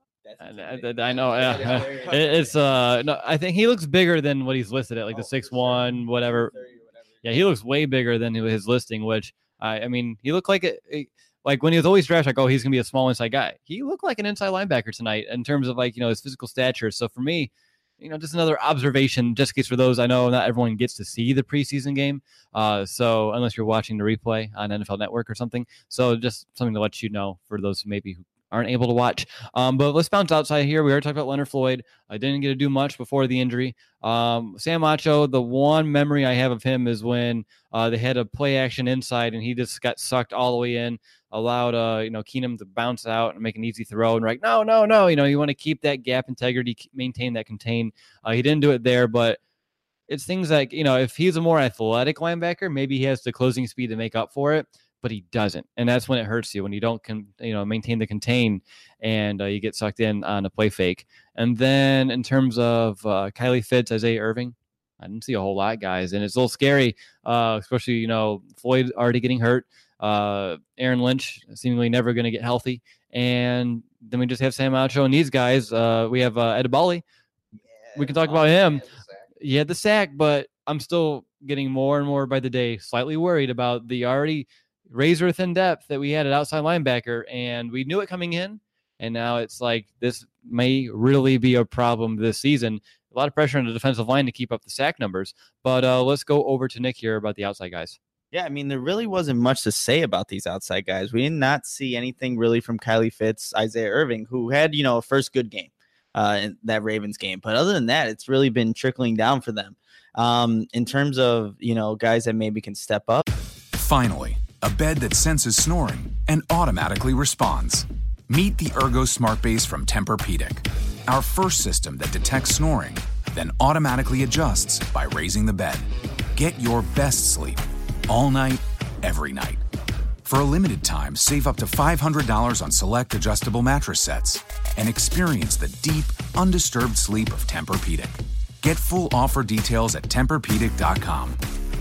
Speaker 2: I, I, I know. Yeah. It, it's uh. No, I think he looks bigger than what he's listed at, like the six one, whatever. Yeah, he looks way bigger than his listing. Which I, I mean, he looked like a, a like when he was always drafted, like, oh, he's gonna be a small inside guy. He looked like an inside linebacker tonight in terms of like you know his physical stature. So for me, you know, just another observation, just in case for those, I know not everyone gets to see the preseason game. Uh, so unless you're watching the replay on N F L Network or something. So just something to let you know for those maybe who aren't able to watch. Um, but let's bounce outside here. We already talked about Leonard Floyd. I didn't get to do much before the injury. Um, Sam Acho, the one memory I have of him is when uh, they had a play action inside and he just got sucked all the way in, allowed uh, you know, Keenum to bounce out and make an easy throw. And like, no, no, no, you know, you want to keep that gap integrity, maintain that contain. Uh, he didn't do it there, but it's things like, you know, if he's a more athletic linebacker, maybe he has the closing speed to make up for it. But he doesn't, and that's when it hurts you when you don't, con- you know, maintain the contain, and uh, you get sucked in on a play fake. And then in terms of uh, Kylie Fitz, Isaiah Irving, I didn't see a whole lot, guys, and it's a little scary, uh, especially you know Floyd already getting hurt, uh, Aaron Lynch seemingly never going to get healthy, and then we just have Sam Acho and these guys. Uh, we have uh, Edebali. Yeah, we can talk about him. He had the sack, but I'm still getting more and more by the day, slightly worried about the already razor thin depth that we had at outside linebacker, and we knew it coming in, and now it's like this may really be a problem this season. A lot of pressure on the defensive line to keep up the sack numbers, but uh, let's go over to Nick here about the outside guys.
Speaker 4: Yeah, I mean, there really wasn't much to say about these outside guys. We did not see anything really from Kylie Fitz, Isaiah Irving, who had, you know, a first good game uh, in that Ravens game. But other than that, it's really been trickling down for them. Um, in terms of, you know, guys that maybe can step up.
Speaker 1: Finally, a bed that senses snoring and automatically responds. Meet the Ergo Smart Base from Tempur-Pedic, our first system that detects snoring, then automatically adjusts by raising the bed. Get your best sleep all night, every night. For a limited time, save up to five hundred dollars on select adjustable mattress sets and experience the deep, undisturbed sleep of Tempur-Pedic. Get full offer details at Tempur Pedic dot com.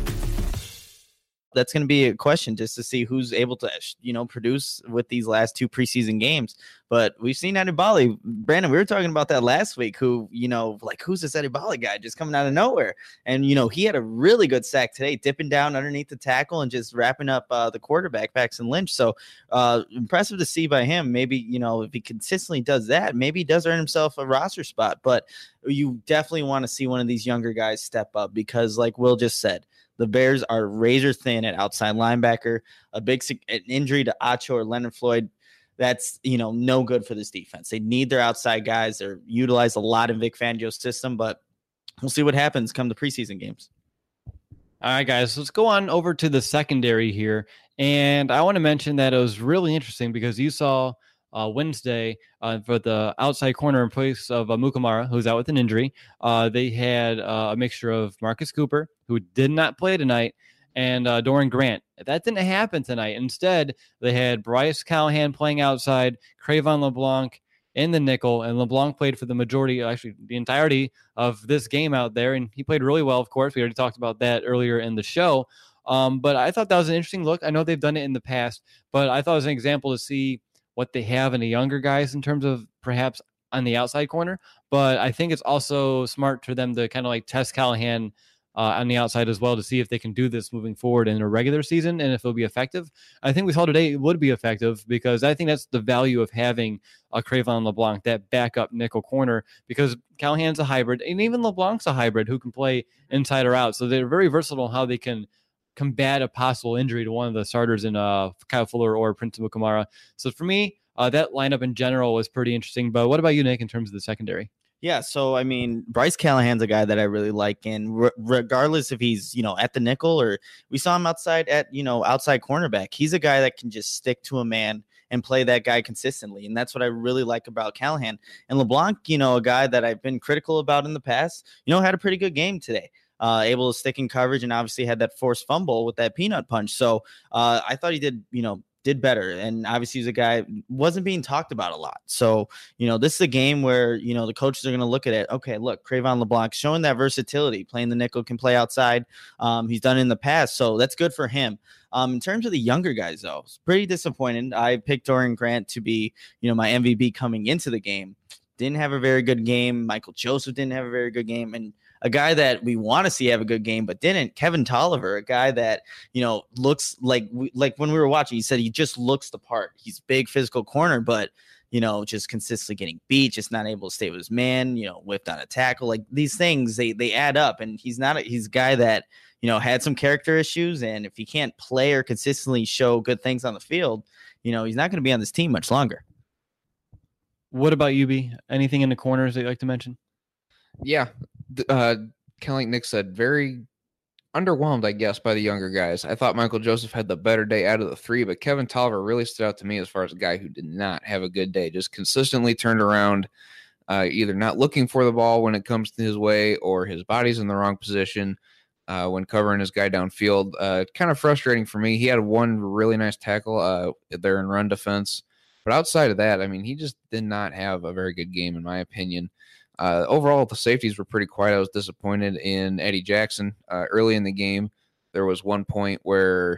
Speaker 4: That's going to be a question just to see who's able to, you know, produce with these last two preseason games. But we've seen Edebali. Brandon, we were talking about that last week, who, you know, like, who's this Edebali guy just coming out of nowhere? And, you know, he had a really good sack today, dipping down underneath the tackle and just wrapping up uh, the quarterback, Paxton Lynch. So uh, impressive to see by him. Maybe, you know, if he consistently does that, maybe he does earn himself a roster spot. But you definitely want to see one of these younger guys step up because, like Will just said, the Bears are razor thin at outside linebacker. A big an injury to Acho or Leonard Floyd, that's, you know, no good for this defense. They need their outside guys. They're utilized a lot in Vic Fangio's system, but we'll see what happens come the preseason games.
Speaker 2: All right, guys, let's go on over to the secondary here. And I want to mention that it was really interesting because you saw Uh, Wednesday uh, for the outside corner in place of uh, Mukamara, who's out with an injury. Uh, they had uh, a mixture of Marcus Cooper, who did not play tonight, and uh, Doran Grant. That didn't happen tonight. Instead, they had Bryce Callahan playing outside, Cravon LeBlanc in the nickel, and LeBlanc played for the majority, actually the entirety of this game out there, and he played really well, of course. We already talked about that earlier in the show. Um, but I thought that was an interesting look. I know they've done it in the past, but I thought it was an example to see what they have in the younger guys in terms of perhaps on the outside corner. But I think it's also smart for them to kind of like test Callahan Uh, on the outside as well to see if they can do this moving forward in a regular season and if it'll be effective. I think we saw today it would be effective because I think that's the value of having a Cravon LeBlanc, that backup nickel corner, because Callahan's a hybrid and even LeBlanc's a hybrid who can play inside or out. So they're very versatile in how they can combat a possible injury to one of the starters in uh, Kyle Fuller or Prince Mukamara. So for me, uh, that lineup in general was pretty interesting. But what about you, Nick, in terms of the secondary?
Speaker 4: Yeah, so I mean, Bryce Callahan's a guy that I really like, and re- regardless if he's, you know, at the nickel or we saw him outside at, you know, outside cornerback, he's a guy that can just stick to a man and play that guy consistently, and that's what I really like about Callahan. And LeBlanc, you know, a guy that I've been critical about in the past, you know, had a pretty good game today. Uh, able to stick in coverage and obviously had that forced fumble with that peanut punch. So uh, I thought he did, you know, did better. And obviously he's a guy wasn't being talked about a lot. So, you know, this is a game where, you know, the coaches are going to look at it. Okay, look, Cravon LeBlanc showing that versatility, playing the nickel, can play outside. Um, he's done it in the past. So that's good for him. Um, in terms of the younger guys, though, it's pretty disappointed. I picked Doran Grant to be, you know, my M V P coming into the game. Didn't have a very good game. Michael Joseph didn't have a very good game. And a guy that we want to see have a good game, but didn't, Kevin Tolliver, a guy that, you know, looks like, like when we were watching, he said he just looks the part. He's big physical corner, but, you know, just consistently getting beat, just not able to stay with his man, you know, whipped on a tackle. Like these things, they, they add up. And he's not, a, he's a guy that, you know, had some character issues. And if he can't play or consistently show good things on the field, you know, he's not going to be on this team much longer.
Speaker 2: What about you, B? Anything in the corners that you'd like to mention?
Speaker 3: Yeah. Uh, kind of like Nick said, very underwhelmed, I guess, by the younger guys. I thought Michael Joseph had the better day out of the three, but Kevin Tolliver really stood out to me as far as a guy who did not have a good day, just consistently turned around, uh, either not looking for the ball when it comes to his way or his body's in the wrong position uh, when covering his guy downfield. Uh, kind of frustrating for me. He had one really nice tackle uh, there in run defense. But outside of that, I mean, he just did not have a very good game, in my opinion. Uh, overall, the safeties were pretty quiet. I was disappointed in Eddie Jackson. Uh, early in the game, there was one point where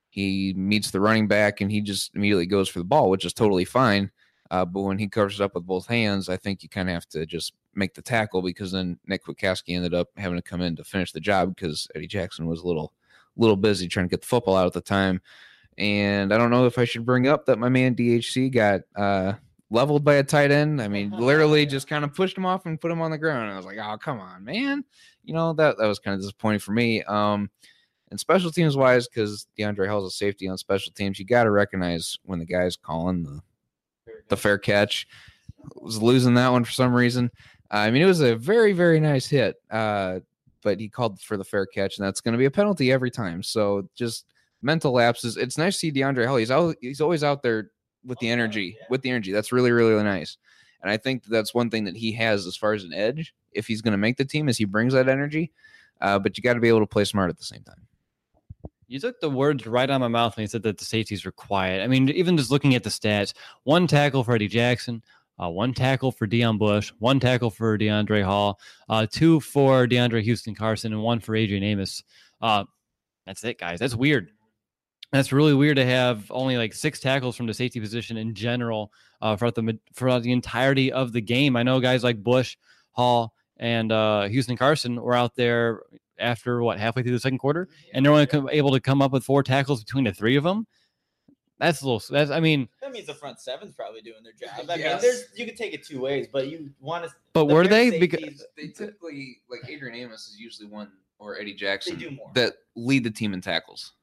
Speaker 3: he meets the running back and he just immediately goes for the ball, which is totally fine. Uh, but when he covers it up with both hands, I think you kind of have to just make the tackle, because then Nick Kwiatkowski ended up having to come in to finish the job because Eddie Jackson was a little, little busy trying to get the football out at the time. And I don't know if I should bring up that my man D H C got uh, leveled by a tight end. I mean, literally just kind of pushed him off and put him on the ground. And I was like, oh, come on, man. You know, that, that was kind of disappointing for me. Um, and special teams wise, because DeAndre Hall's a safety on special teams, you got to recognize when the guy's calling the, the fair catch. Was losing that one for some reason. Uh, I mean, it was a very, very nice hit, uh, but he called for the fair catch, and that's going to be a penalty every time. So just mental lapses. It's nice to see DeAndre Hall. He's out, he's always out there with the energy, with the energy. That's really, really, really nice. And I think that's one thing that he has as far as an edge, if he's going to make the team, is he brings that energy. Uh, but you got to be able to play smart at the same time.
Speaker 2: You took the words right out of my mouth when you said that the safeties were quiet. I mean, even just looking at the stats, one tackle for Eddie Jackson, uh, one tackle for Deion Bush, one tackle for DeAndre Hall, uh, two for DeAndre Houston Carson, and one for Adrian Amos. Uh, that's it, guys. That's weird. That's really weird to have only like six tackles from the safety position in general uh, throughout the throughout the entirety of the game. I know guys like Bush, Hall, and uh, Houston Carson were out there after what halfway through the second quarter, and they're only com- able to come up with four tackles between the three of them. That's a little. That's I mean,
Speaker 4: that means the front seven's probably doing their job. I
Speaker 3: Yes.
Speaker 4: mean, there's you can take it two ways, but you want to.
Speaker 2: but
Speaker 4: the
Speaker 2: were
Speaker 4: fair
Speaker 2: they? Because
Speaker 4: safeties,
Speaker 3: They typically, like Adrian Amos is usually one, or Eddie Jackson,
Speaker 4: They do more.
Speaker 3: that lead the team in tackles.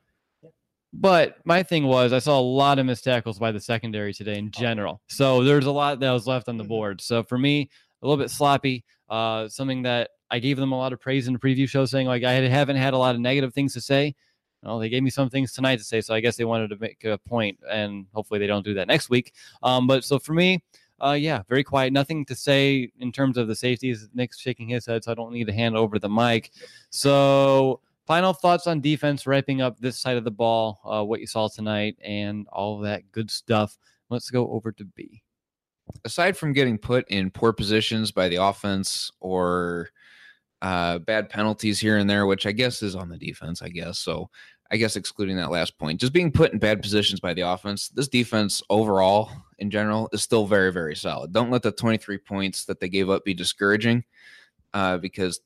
Speaker 2: But my thing was, I saw a lot of missed tackles by the secondary today in general. So there's a lot that was left on the board. So for me, a little bit sloppy. Uh, something that I gave them a lot of praise in the preview show, saying like I haven't had a lot of negative things to say. Well, they gave me some things tonight to say, so I guess they wanted to make a point, and hopefully they don't do that next week. Um, but so for me, uh, yeah, very quiet. Nothing to say in terms of the safeties. Nick's shaking his head, so I don't need to hand over the mic. So final thoughts on defense, wrapping up this side of the ball, uh, what you saw tonight, and all of that good stuff. Let's go over to B.
Speaker 3: Aside from getting put in poor positions by the offense or uh, bad penalties here and there, which I guess is on the defense, I guess. So I guess excluding that last point, just being put in bad positions by the offense, this defense overall in general is still very, very solid. Don't let the twenty-three points that they gave up be discouraging uh, because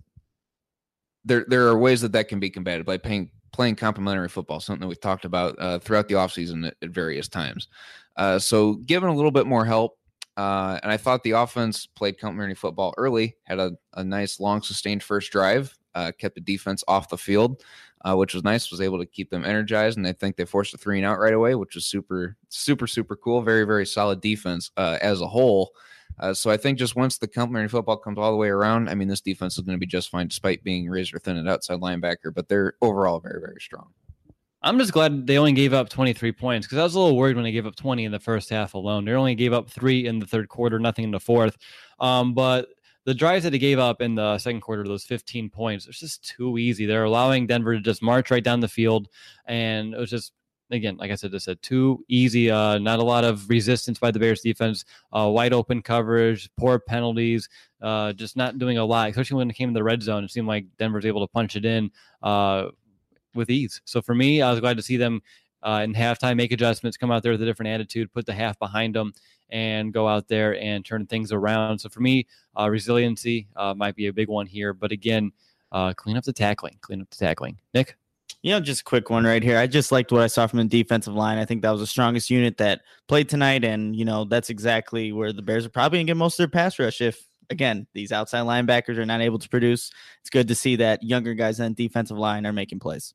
Speaker 3: there there are ways that that can be combated by paying, playing complementary football, something that we've talked about uh, throughout the offseason at, at various times. Uh, so given a little bit more help, Uh, and I thought the offense played complementary football early, had a, a nice, long, sustained first drive, uh, kept the defense off the field, uh, which was nice, was able to keep them energized. And I think they forced a three and out right away, which was super, super, super cool. Very, very solid defense uh, as a whole. Uh, so I think just once the complementary football comes all the way around, I mean, this defense is going to be just fine despite being razor thin at outside linebacker, but they're overall very, very strong.
Speaker 2: I'm just glad they only gave up twenty-three points because I was a little worried when they gave up twenty in the first half alone. They only gave up three in the third quarter, nothing in the fourth. Um, but the drives that they gave up in the second quarter, those fifteen points, it's just too easy. They're allowing Denver to just march right down the field. And it was just, again, like I said, just said too easy. Uh, not a lot of resistance by the Bears defense, uh, wide open coverage, poor penalties, uh, just not doing a lot, especially when it came to the red zone. It seemed like Denver was able to punch it in uh, with ease. So for me, I was glad to see them uh, in halftime make adjustments, come out there with a different attitude, put the half behind them, and go out there and turn things around. So for me, uh, resiliency uh, might be a big one here. But again, uh, clean up the tackling, clean up the tackling. Nick?
Speaker 4: You know, just a quick one right here. I just liked what I saw from the defensive line. I think that was the strongest unit that played tonight. And, you know, that's exactly where the Bears are probably going to get most of their pass rush if, again, these outside linebackers are not able to produce. It's good to see that younger guys on the defensive line are making plays.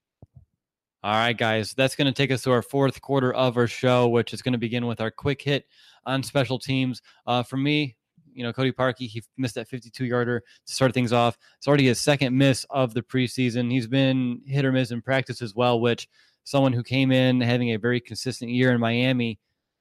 Speaker 2: All right, guys, that's going to take us to our fourth quarter of our show, which is going to begin with our quick hit on special teams. Uh, for me, you know, Cody Parkey, he missed that fifty-two yarder to start things off. It's already his second miss of the preseason. He's been hit or miss in practice as well, which someone who came in having a very consistent year in Miami,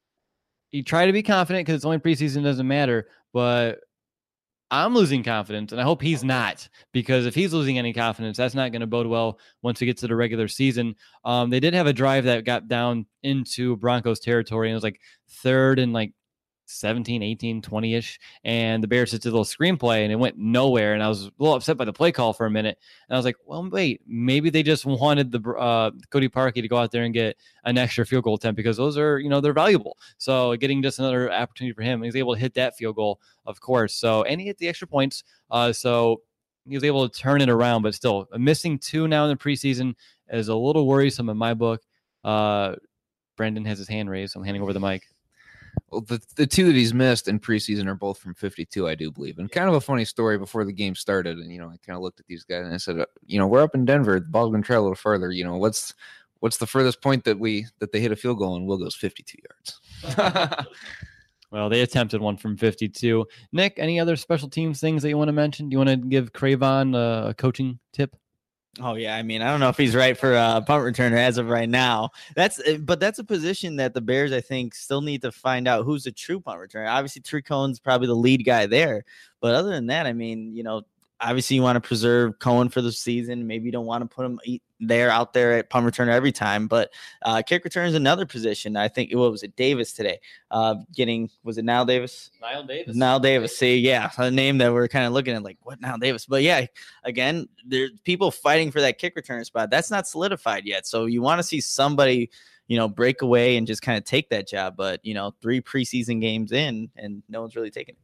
Speaker 2: he tried to be confident because it's only preseason, doesn't matter, but I'm losing confidence, and I hope he's not, because if he's losing any confidence, that's not going to bode well once we get to the regular season. Um, they did have a drive that got down into Broncos territory, and it was like third and like seventeen, eighteen, twenty-ish, and the Bears just did a little screenplay, and it went nowhere, and I was a little upset by the play call for a minute, and I was like, well, wait, maybe they just wanted the uh, Cody Parkey to go out there and get an extra field goal attempt, because those are, you know, they're valuable. So getting just another opportunity for him, he was able to hit that field goal, of course, so, and he hit the extra points, uh, so he was able to turn it around, but still, missing two now in the preseason is a little worrisome in my book. Uh, Brendan has his hand raised, so I'm handing over the mic.
Speaker 3: Well, the, the two that he's missed in preseason are both from fifty-two, I do believe. And kind of a funny story before the game started. And, you know, I kind of looked at these guys and I said, uh, you know, we're up in Denver. The ball's going to try a little further. You know, what's what's the furthest point that we that they hit a field goal? And Will goes fifty-two yards.
Speaker 2: Well, they attempted one from fifty-two. Nick, any other special teams things that you want to mention? Do you want to give Cravon uh, a coaching tip?
Speaker 4: Oh yeah, I mean, I don't know if he's right for a punt returner as of right now. That's, but that's a position that the Bears, I think, still need to find out who's a true punt returner. Obviously, Tariq Cohen's probably the lead guy there, but other than that, I mean, you know, obviously you want to preserve Cohen for the season. Maybe you don't want to put him there out there at punt returner every time, but uh, kick return is another position. I think, what was it, Davis today? Uh, getting, was it Nile Davis?
Speaker 2: Nile Davis.
Speaker 4: Nile Davis. See, yeah, a name that we're kind of looking at like, what, Nile Davis? But yeah, again, there's people fighting for that kick return spot. That's not solidified yet. So you want to see somebody, you know, break away and just kind of take that job. But, you know, three preseason games in and no one's really taking it.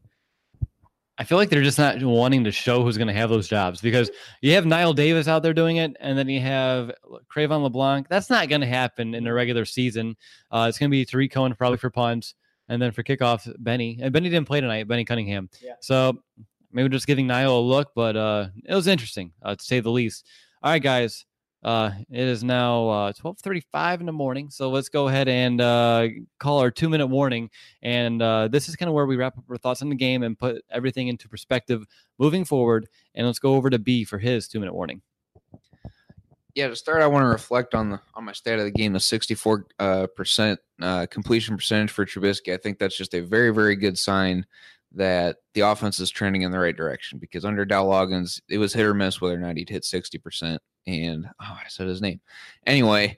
Speaker 2: I feel like they're just not wanting to show who's going to have those jobs, because you have Nile Davis out there doing it, and then you have Cravon LeBlanc. That's not going to happen in a regular season. Uh, it's going to be Tariq Cohen probably for punts, and then for kickoff, Benny. And Benny didn't play tonight, Benny Cunningham. Yeah. So maybe just giving Nile a look, but uh, it was interesting, uh, to say the least. All right, guys. Uh, it is now uh, twelve thirty-five in the morning, so let's go ahead and uh, call our two-minute warning. And uh, this is kind of where we wrap up our thoughts on the game and put everything into perspective moving forward. And let's go over to B for his two-minute warning.
Speaker 3: Yeah, to start, I want to reflect on the on my stat of the game, the sixty-four uh, percent uh, completion percentage for Trubisky. I think that's just a very, very good sign that the offense is trending in the right direction, because under Dow Loggins, it was hit or miss whether or not he'd hit sixty percent. And oh, I said his name. Anyway,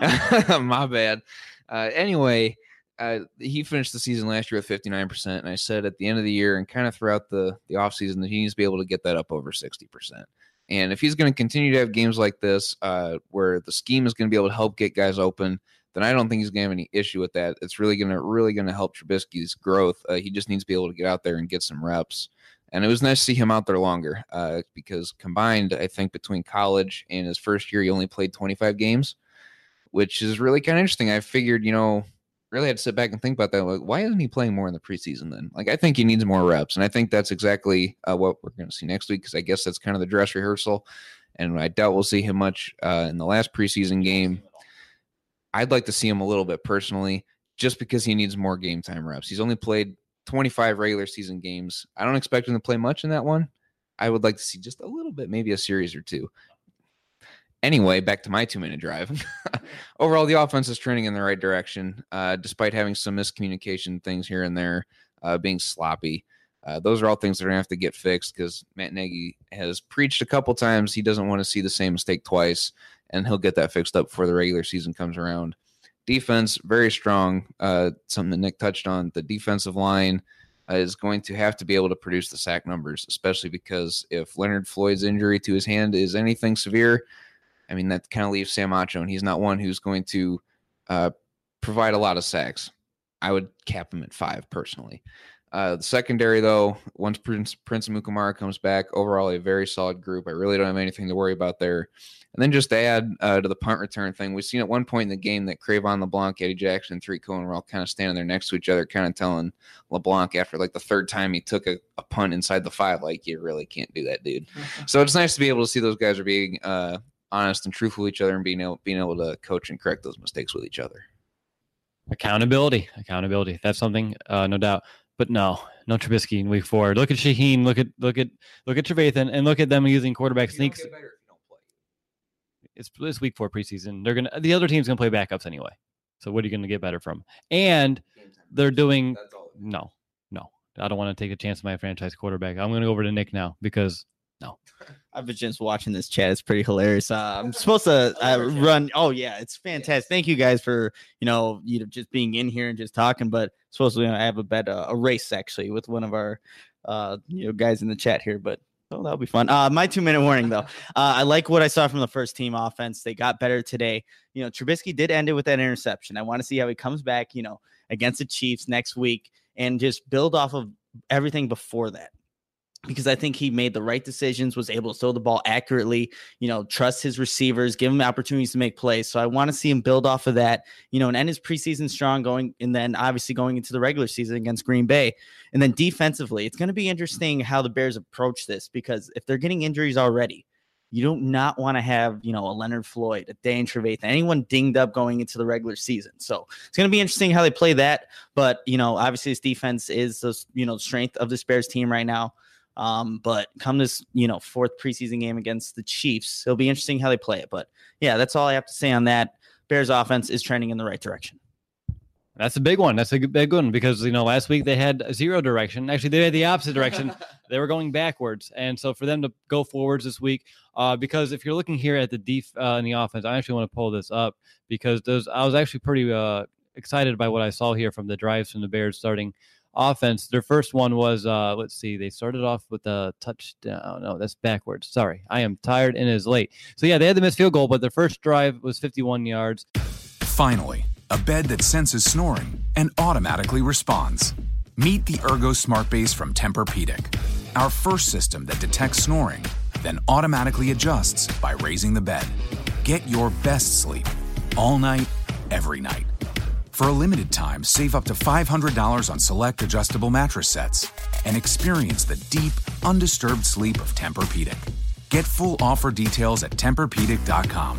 Speaker 3: my bad. Uh, anyway, uh, he finished the season last year with fifty-nine percent. And I said at the end of the year and kind of throughout the, the offseason that he needs to be able to get that up over sixty percent. And if he's going to continue to have games like this, uh, where the scheme is going to be able to help get guys open, then I don't think he's going to have any issue with that. It's really going to really going to help Trubisky's growth. Uh, he just needs to be able to get out there and get some reps. And it was nice to see him out there longer uh, because combined, I think between college and his first year, he only played twenty-five games, which is really kind of interesting. I figured, you know, really had to sit back and think about that. Like, why isn't he playing more in the preseason then? Like, I think he needs more reps. And I think that's exactly uh, what we're going to see next week, because I guess that's kind of the dress rehearsal. And I doubt we'll see him much uh, in the last preseason game. I'd like to see him a little bit personally, just because he needs more game time reps. He's only played twenty-five regular season games. I don't expect him to play much in that one. I would like to see just a little bit, maybe a series or two. Anyway, back to my two-minute drive. Overall, the offense is trending in the right direction, uh, despite having some miscommunication things here and there, uh, being sloppy. Uh, those are all things that are going to have to get fixed, because Matt Nagy has preached a couple times he doesn't want to see the same mistake twice, and he'll get that fixed up before the regular season comes around. Defense, very strong. Uh, something that Nick touched on. The defensive line uh, is going to have to be able to produce the sack numbers, especially because if Leonard Floyd's injury to his hand is anything severe, I mean, that kind of leaves Sam Acho, and he's not one who's going to uh, provide a lot of sacks. I would cap him at five, personally. Uh, the secondary, though, once Prince, Prince Amukamara comes back, overall a very solid group. I really don't have anything to worry about there. And then just to add uh, to the punt return thing, we've seen at one point in the game that Crayvon LeBlanc, Eddie Jackson, and Tariq Cohen were all kind of standing there next to each other, kind of telling LeBlanc after like the third time he took a, a punt inside the five, like, you really can't do that, dude. So it's nice to be able to see those guys are being uh, honest and truthful with each other, and being able, being able to coach and correct those mistakes with each other.
Speaker 2: Accountability, accountability. That's something, uh, no doubt. But no, no Trubisky in week four. Look at Shaheen. Look at look at look at Trevathan, and look at them using quarterback sneaks. It's this week four preseason. They're gonna the other team's gonna play backups anyway. So what are you gonna get better from? And they're doing no, no. I don't want to take a chance on my franchise quarterback. I'm gonna go over to Nick now because no.
Speaker 4: I've been just watching this chat. It's pretty hilarious. Uh, I'm supposed to uh, run. Oh yeah, it's fantastic. Thank you guys for you know you know just being in here and just talking. But supposed to you know, I have a bet uh, a race actually with one of our uh, you know guys in the chat here. But oh, that'll be fun. Uh, my two minute warning though. Uh, I like what I saw from the first team offense. They got better today. You know, Trubisky did end it with that interception. I want to see how he comes back. You know, against the Chiefs next week and just build off of everything before that. Because I think he made the right decisions, was able to throw the ball accurately, you know, trust his receivers, give him opportunities to make plays. So I want to see him build off of that, you know, and end his preseason strong going, and then obviously going into the regular season against Green Bay. And then defensively, it's going to be interesting how the Bears approach this, because if they're getting injuries already, you don't not want to have, you know, a Leonard Floyd, a Dane Trevathan, anyone dinged up going into the regular season. So it's going to be interesting how they play that. But, you know, obviously this defense is the, you know, strength of this Bears team right now. Um, but come this, you know, fourth preseason game against the Chiefs, it'll be interesting how they play it. But yeah, that's all I have to say on that. Bears offense is trending in the right direction.
Speaker 2: That's a big one. That's a big one because, you know, last week they had zero direction. Actually, they had the opposite direction. They were going backwards. And so for them to go forwards this week, uh, because if you're looking here at the def uh, in the offense, I actually want to pull this up because those, I was actually pretty uh, excited by what I saw here from the drives from the Bears starting offense. Their first one was, uh, let's see, they started off with a touchdown. No, that's backwards. Sorry. I am tired and it is late. So yeah, they had the missed field goal, but their first drive was fifty-one yards.
Speaker 1: Finally, a bed that senses snoring and automatically responds. Meet the Ergo Smart Base from Tempur-Pedic, our first system that detects snoring, then automatically adjusts by raising the bed. Get your best sleep all night, every night. For a limited time, save up to five hundred dollars on select adjustable mattress sets and experience the deep, undisturbed sleep of Tempur-Pedic. Get full offer details at Tempur Pedic dot com.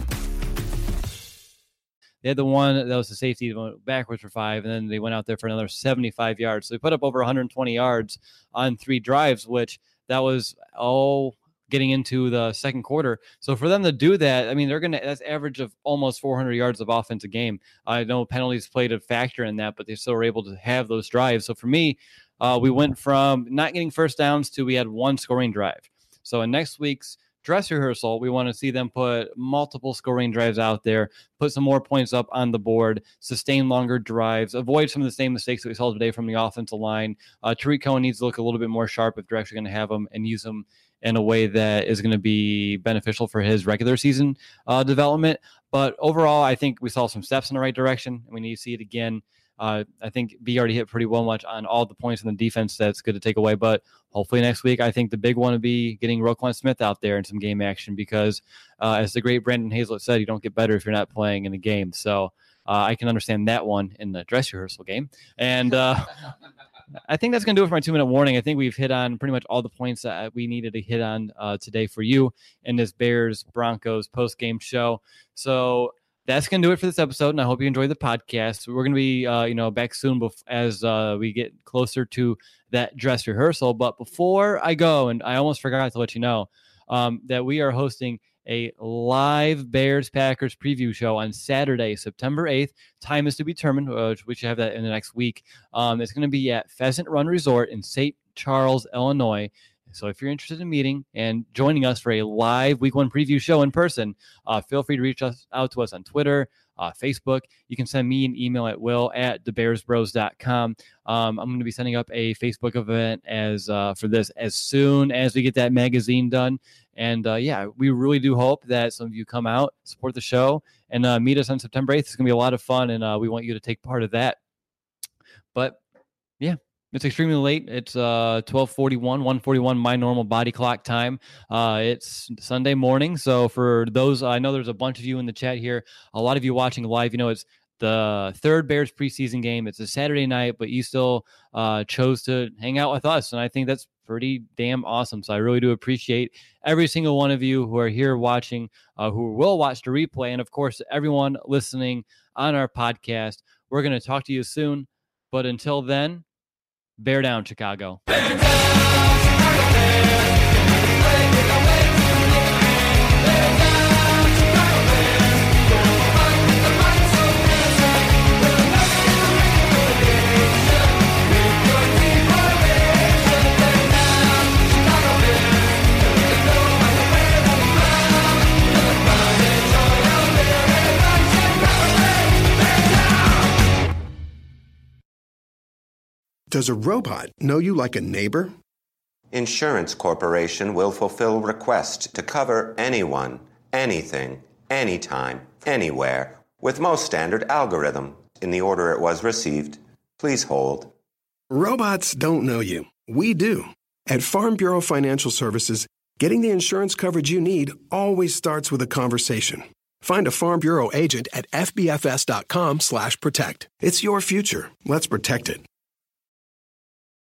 Speaker 2: They had the one that was the safety that went backwards for five, and then they went out there for another seventy-five yards. So they put up over one hundred twenty yards on three drives, which that was all getting into the second quarter. So for them to do that, I mean, they're going to, that's average of almost four hundred yards of offense a game. I know penalties played a factor in that, but they still were able to have those drives. So for me, uh, we went from not getting first downs to we had one scoring drive. So in next week's dress rehearsal, we want to see them put multiple scoring drives out there, put some more points up on the board, sustain longer drives, avoid some of the same mistakes that we saw today from the offensive line. Uh, Tariq Cohen needs to look a little bit more sharp if they're actually going to have him and use him in a way that is going to be beneficial for his regular season uh, development. But overall, I think we saw some steps in the right direction, and we need to see it again. Uh, I think B already hit pretty well much on all the points in the defense that's good to take away. But hopefully next week, I think the big one would be getting Roquan Smith out there in some game action because, uh, as the great Brandon Hazlett said, you don't get better if you're not playing in a game. So uh, I can understand that one in the dress rehearsal game. And uh, I think that's going to do it for my two-minute warning. I think we've hit on pretty much all the points that we needed to hit on uh, today for you in this Bears-Broncos post-game show. So that's going to do it for this episode, and I hope you enjoyed the podcast. We're going to be, uh, you know, back soon bef- as uh, we get closer to that dress rehearsal. But before I go, and I almost forgot to let you know um, that we are hosting a live Bears-Packers preview show on Saturday, September eighth. Time is to be determined. Uh, we should have that in the next week. Um, it's going to be at Pheasant Run Resort in Saint Charles, Illinois. So if you're interested in meeting and joining us for a live week one preview show in person, uh, feel free to reach us out to us on Twitter, uh, Facebook. You can send me an email at will at the bears bros dot com. Um, I'm going to be setting up a Facebook event as uh, for this as soon as we get that magazine done. And uh, yeah, we really do hope that some of you come out, support the show, and uh, meet us on September eighth. It's going to be a lot of fun, and uh, we want you to take part of that. But yeah. It's extremely late. It's uh, twelve forty-one, one forty-one, my normal body clock time. Uh, it's Sunday morning. So for those, I know there's a bunch of you in the chat here. A lot of you watching live, you know, it's the third Bears preseason game. It's a Saturday night, but you still uh, chose to hang out with us. And I think that's pretty damn awesome. So I really do appreciate every single one of you who are here watching, uh, who will watch the replay. And of course, everyone listening on our podcast. We're going to talk to you soon. But until then, bear down, Chicago. Bear down, Chicago Bears. Play with the way to win. Bear down, Chicago Bears. We'll fight with the might so dancing. We'll never relegation. With your team formation. Bear down, Chicago Bears. With the no matter where we run. We'll find and joy out there. Bear down, Chicago Bears. Bear down.
Speaker 5: Does a robot know you like a neighbor?
Speaker 6: Insurance Corporation will fulfill request to cover anyone, anything, anytime, anywhere, with most standard algorithm in the order it was received. Please hold.
Speaker 5: Robots don't know you. We do. At Farm Bureau Financial Services, getting the insurance coverage you need always starts with a conversation. Find a Farm Bureau agent at F B F S dot com slash protect. It's your future. Let's protect it.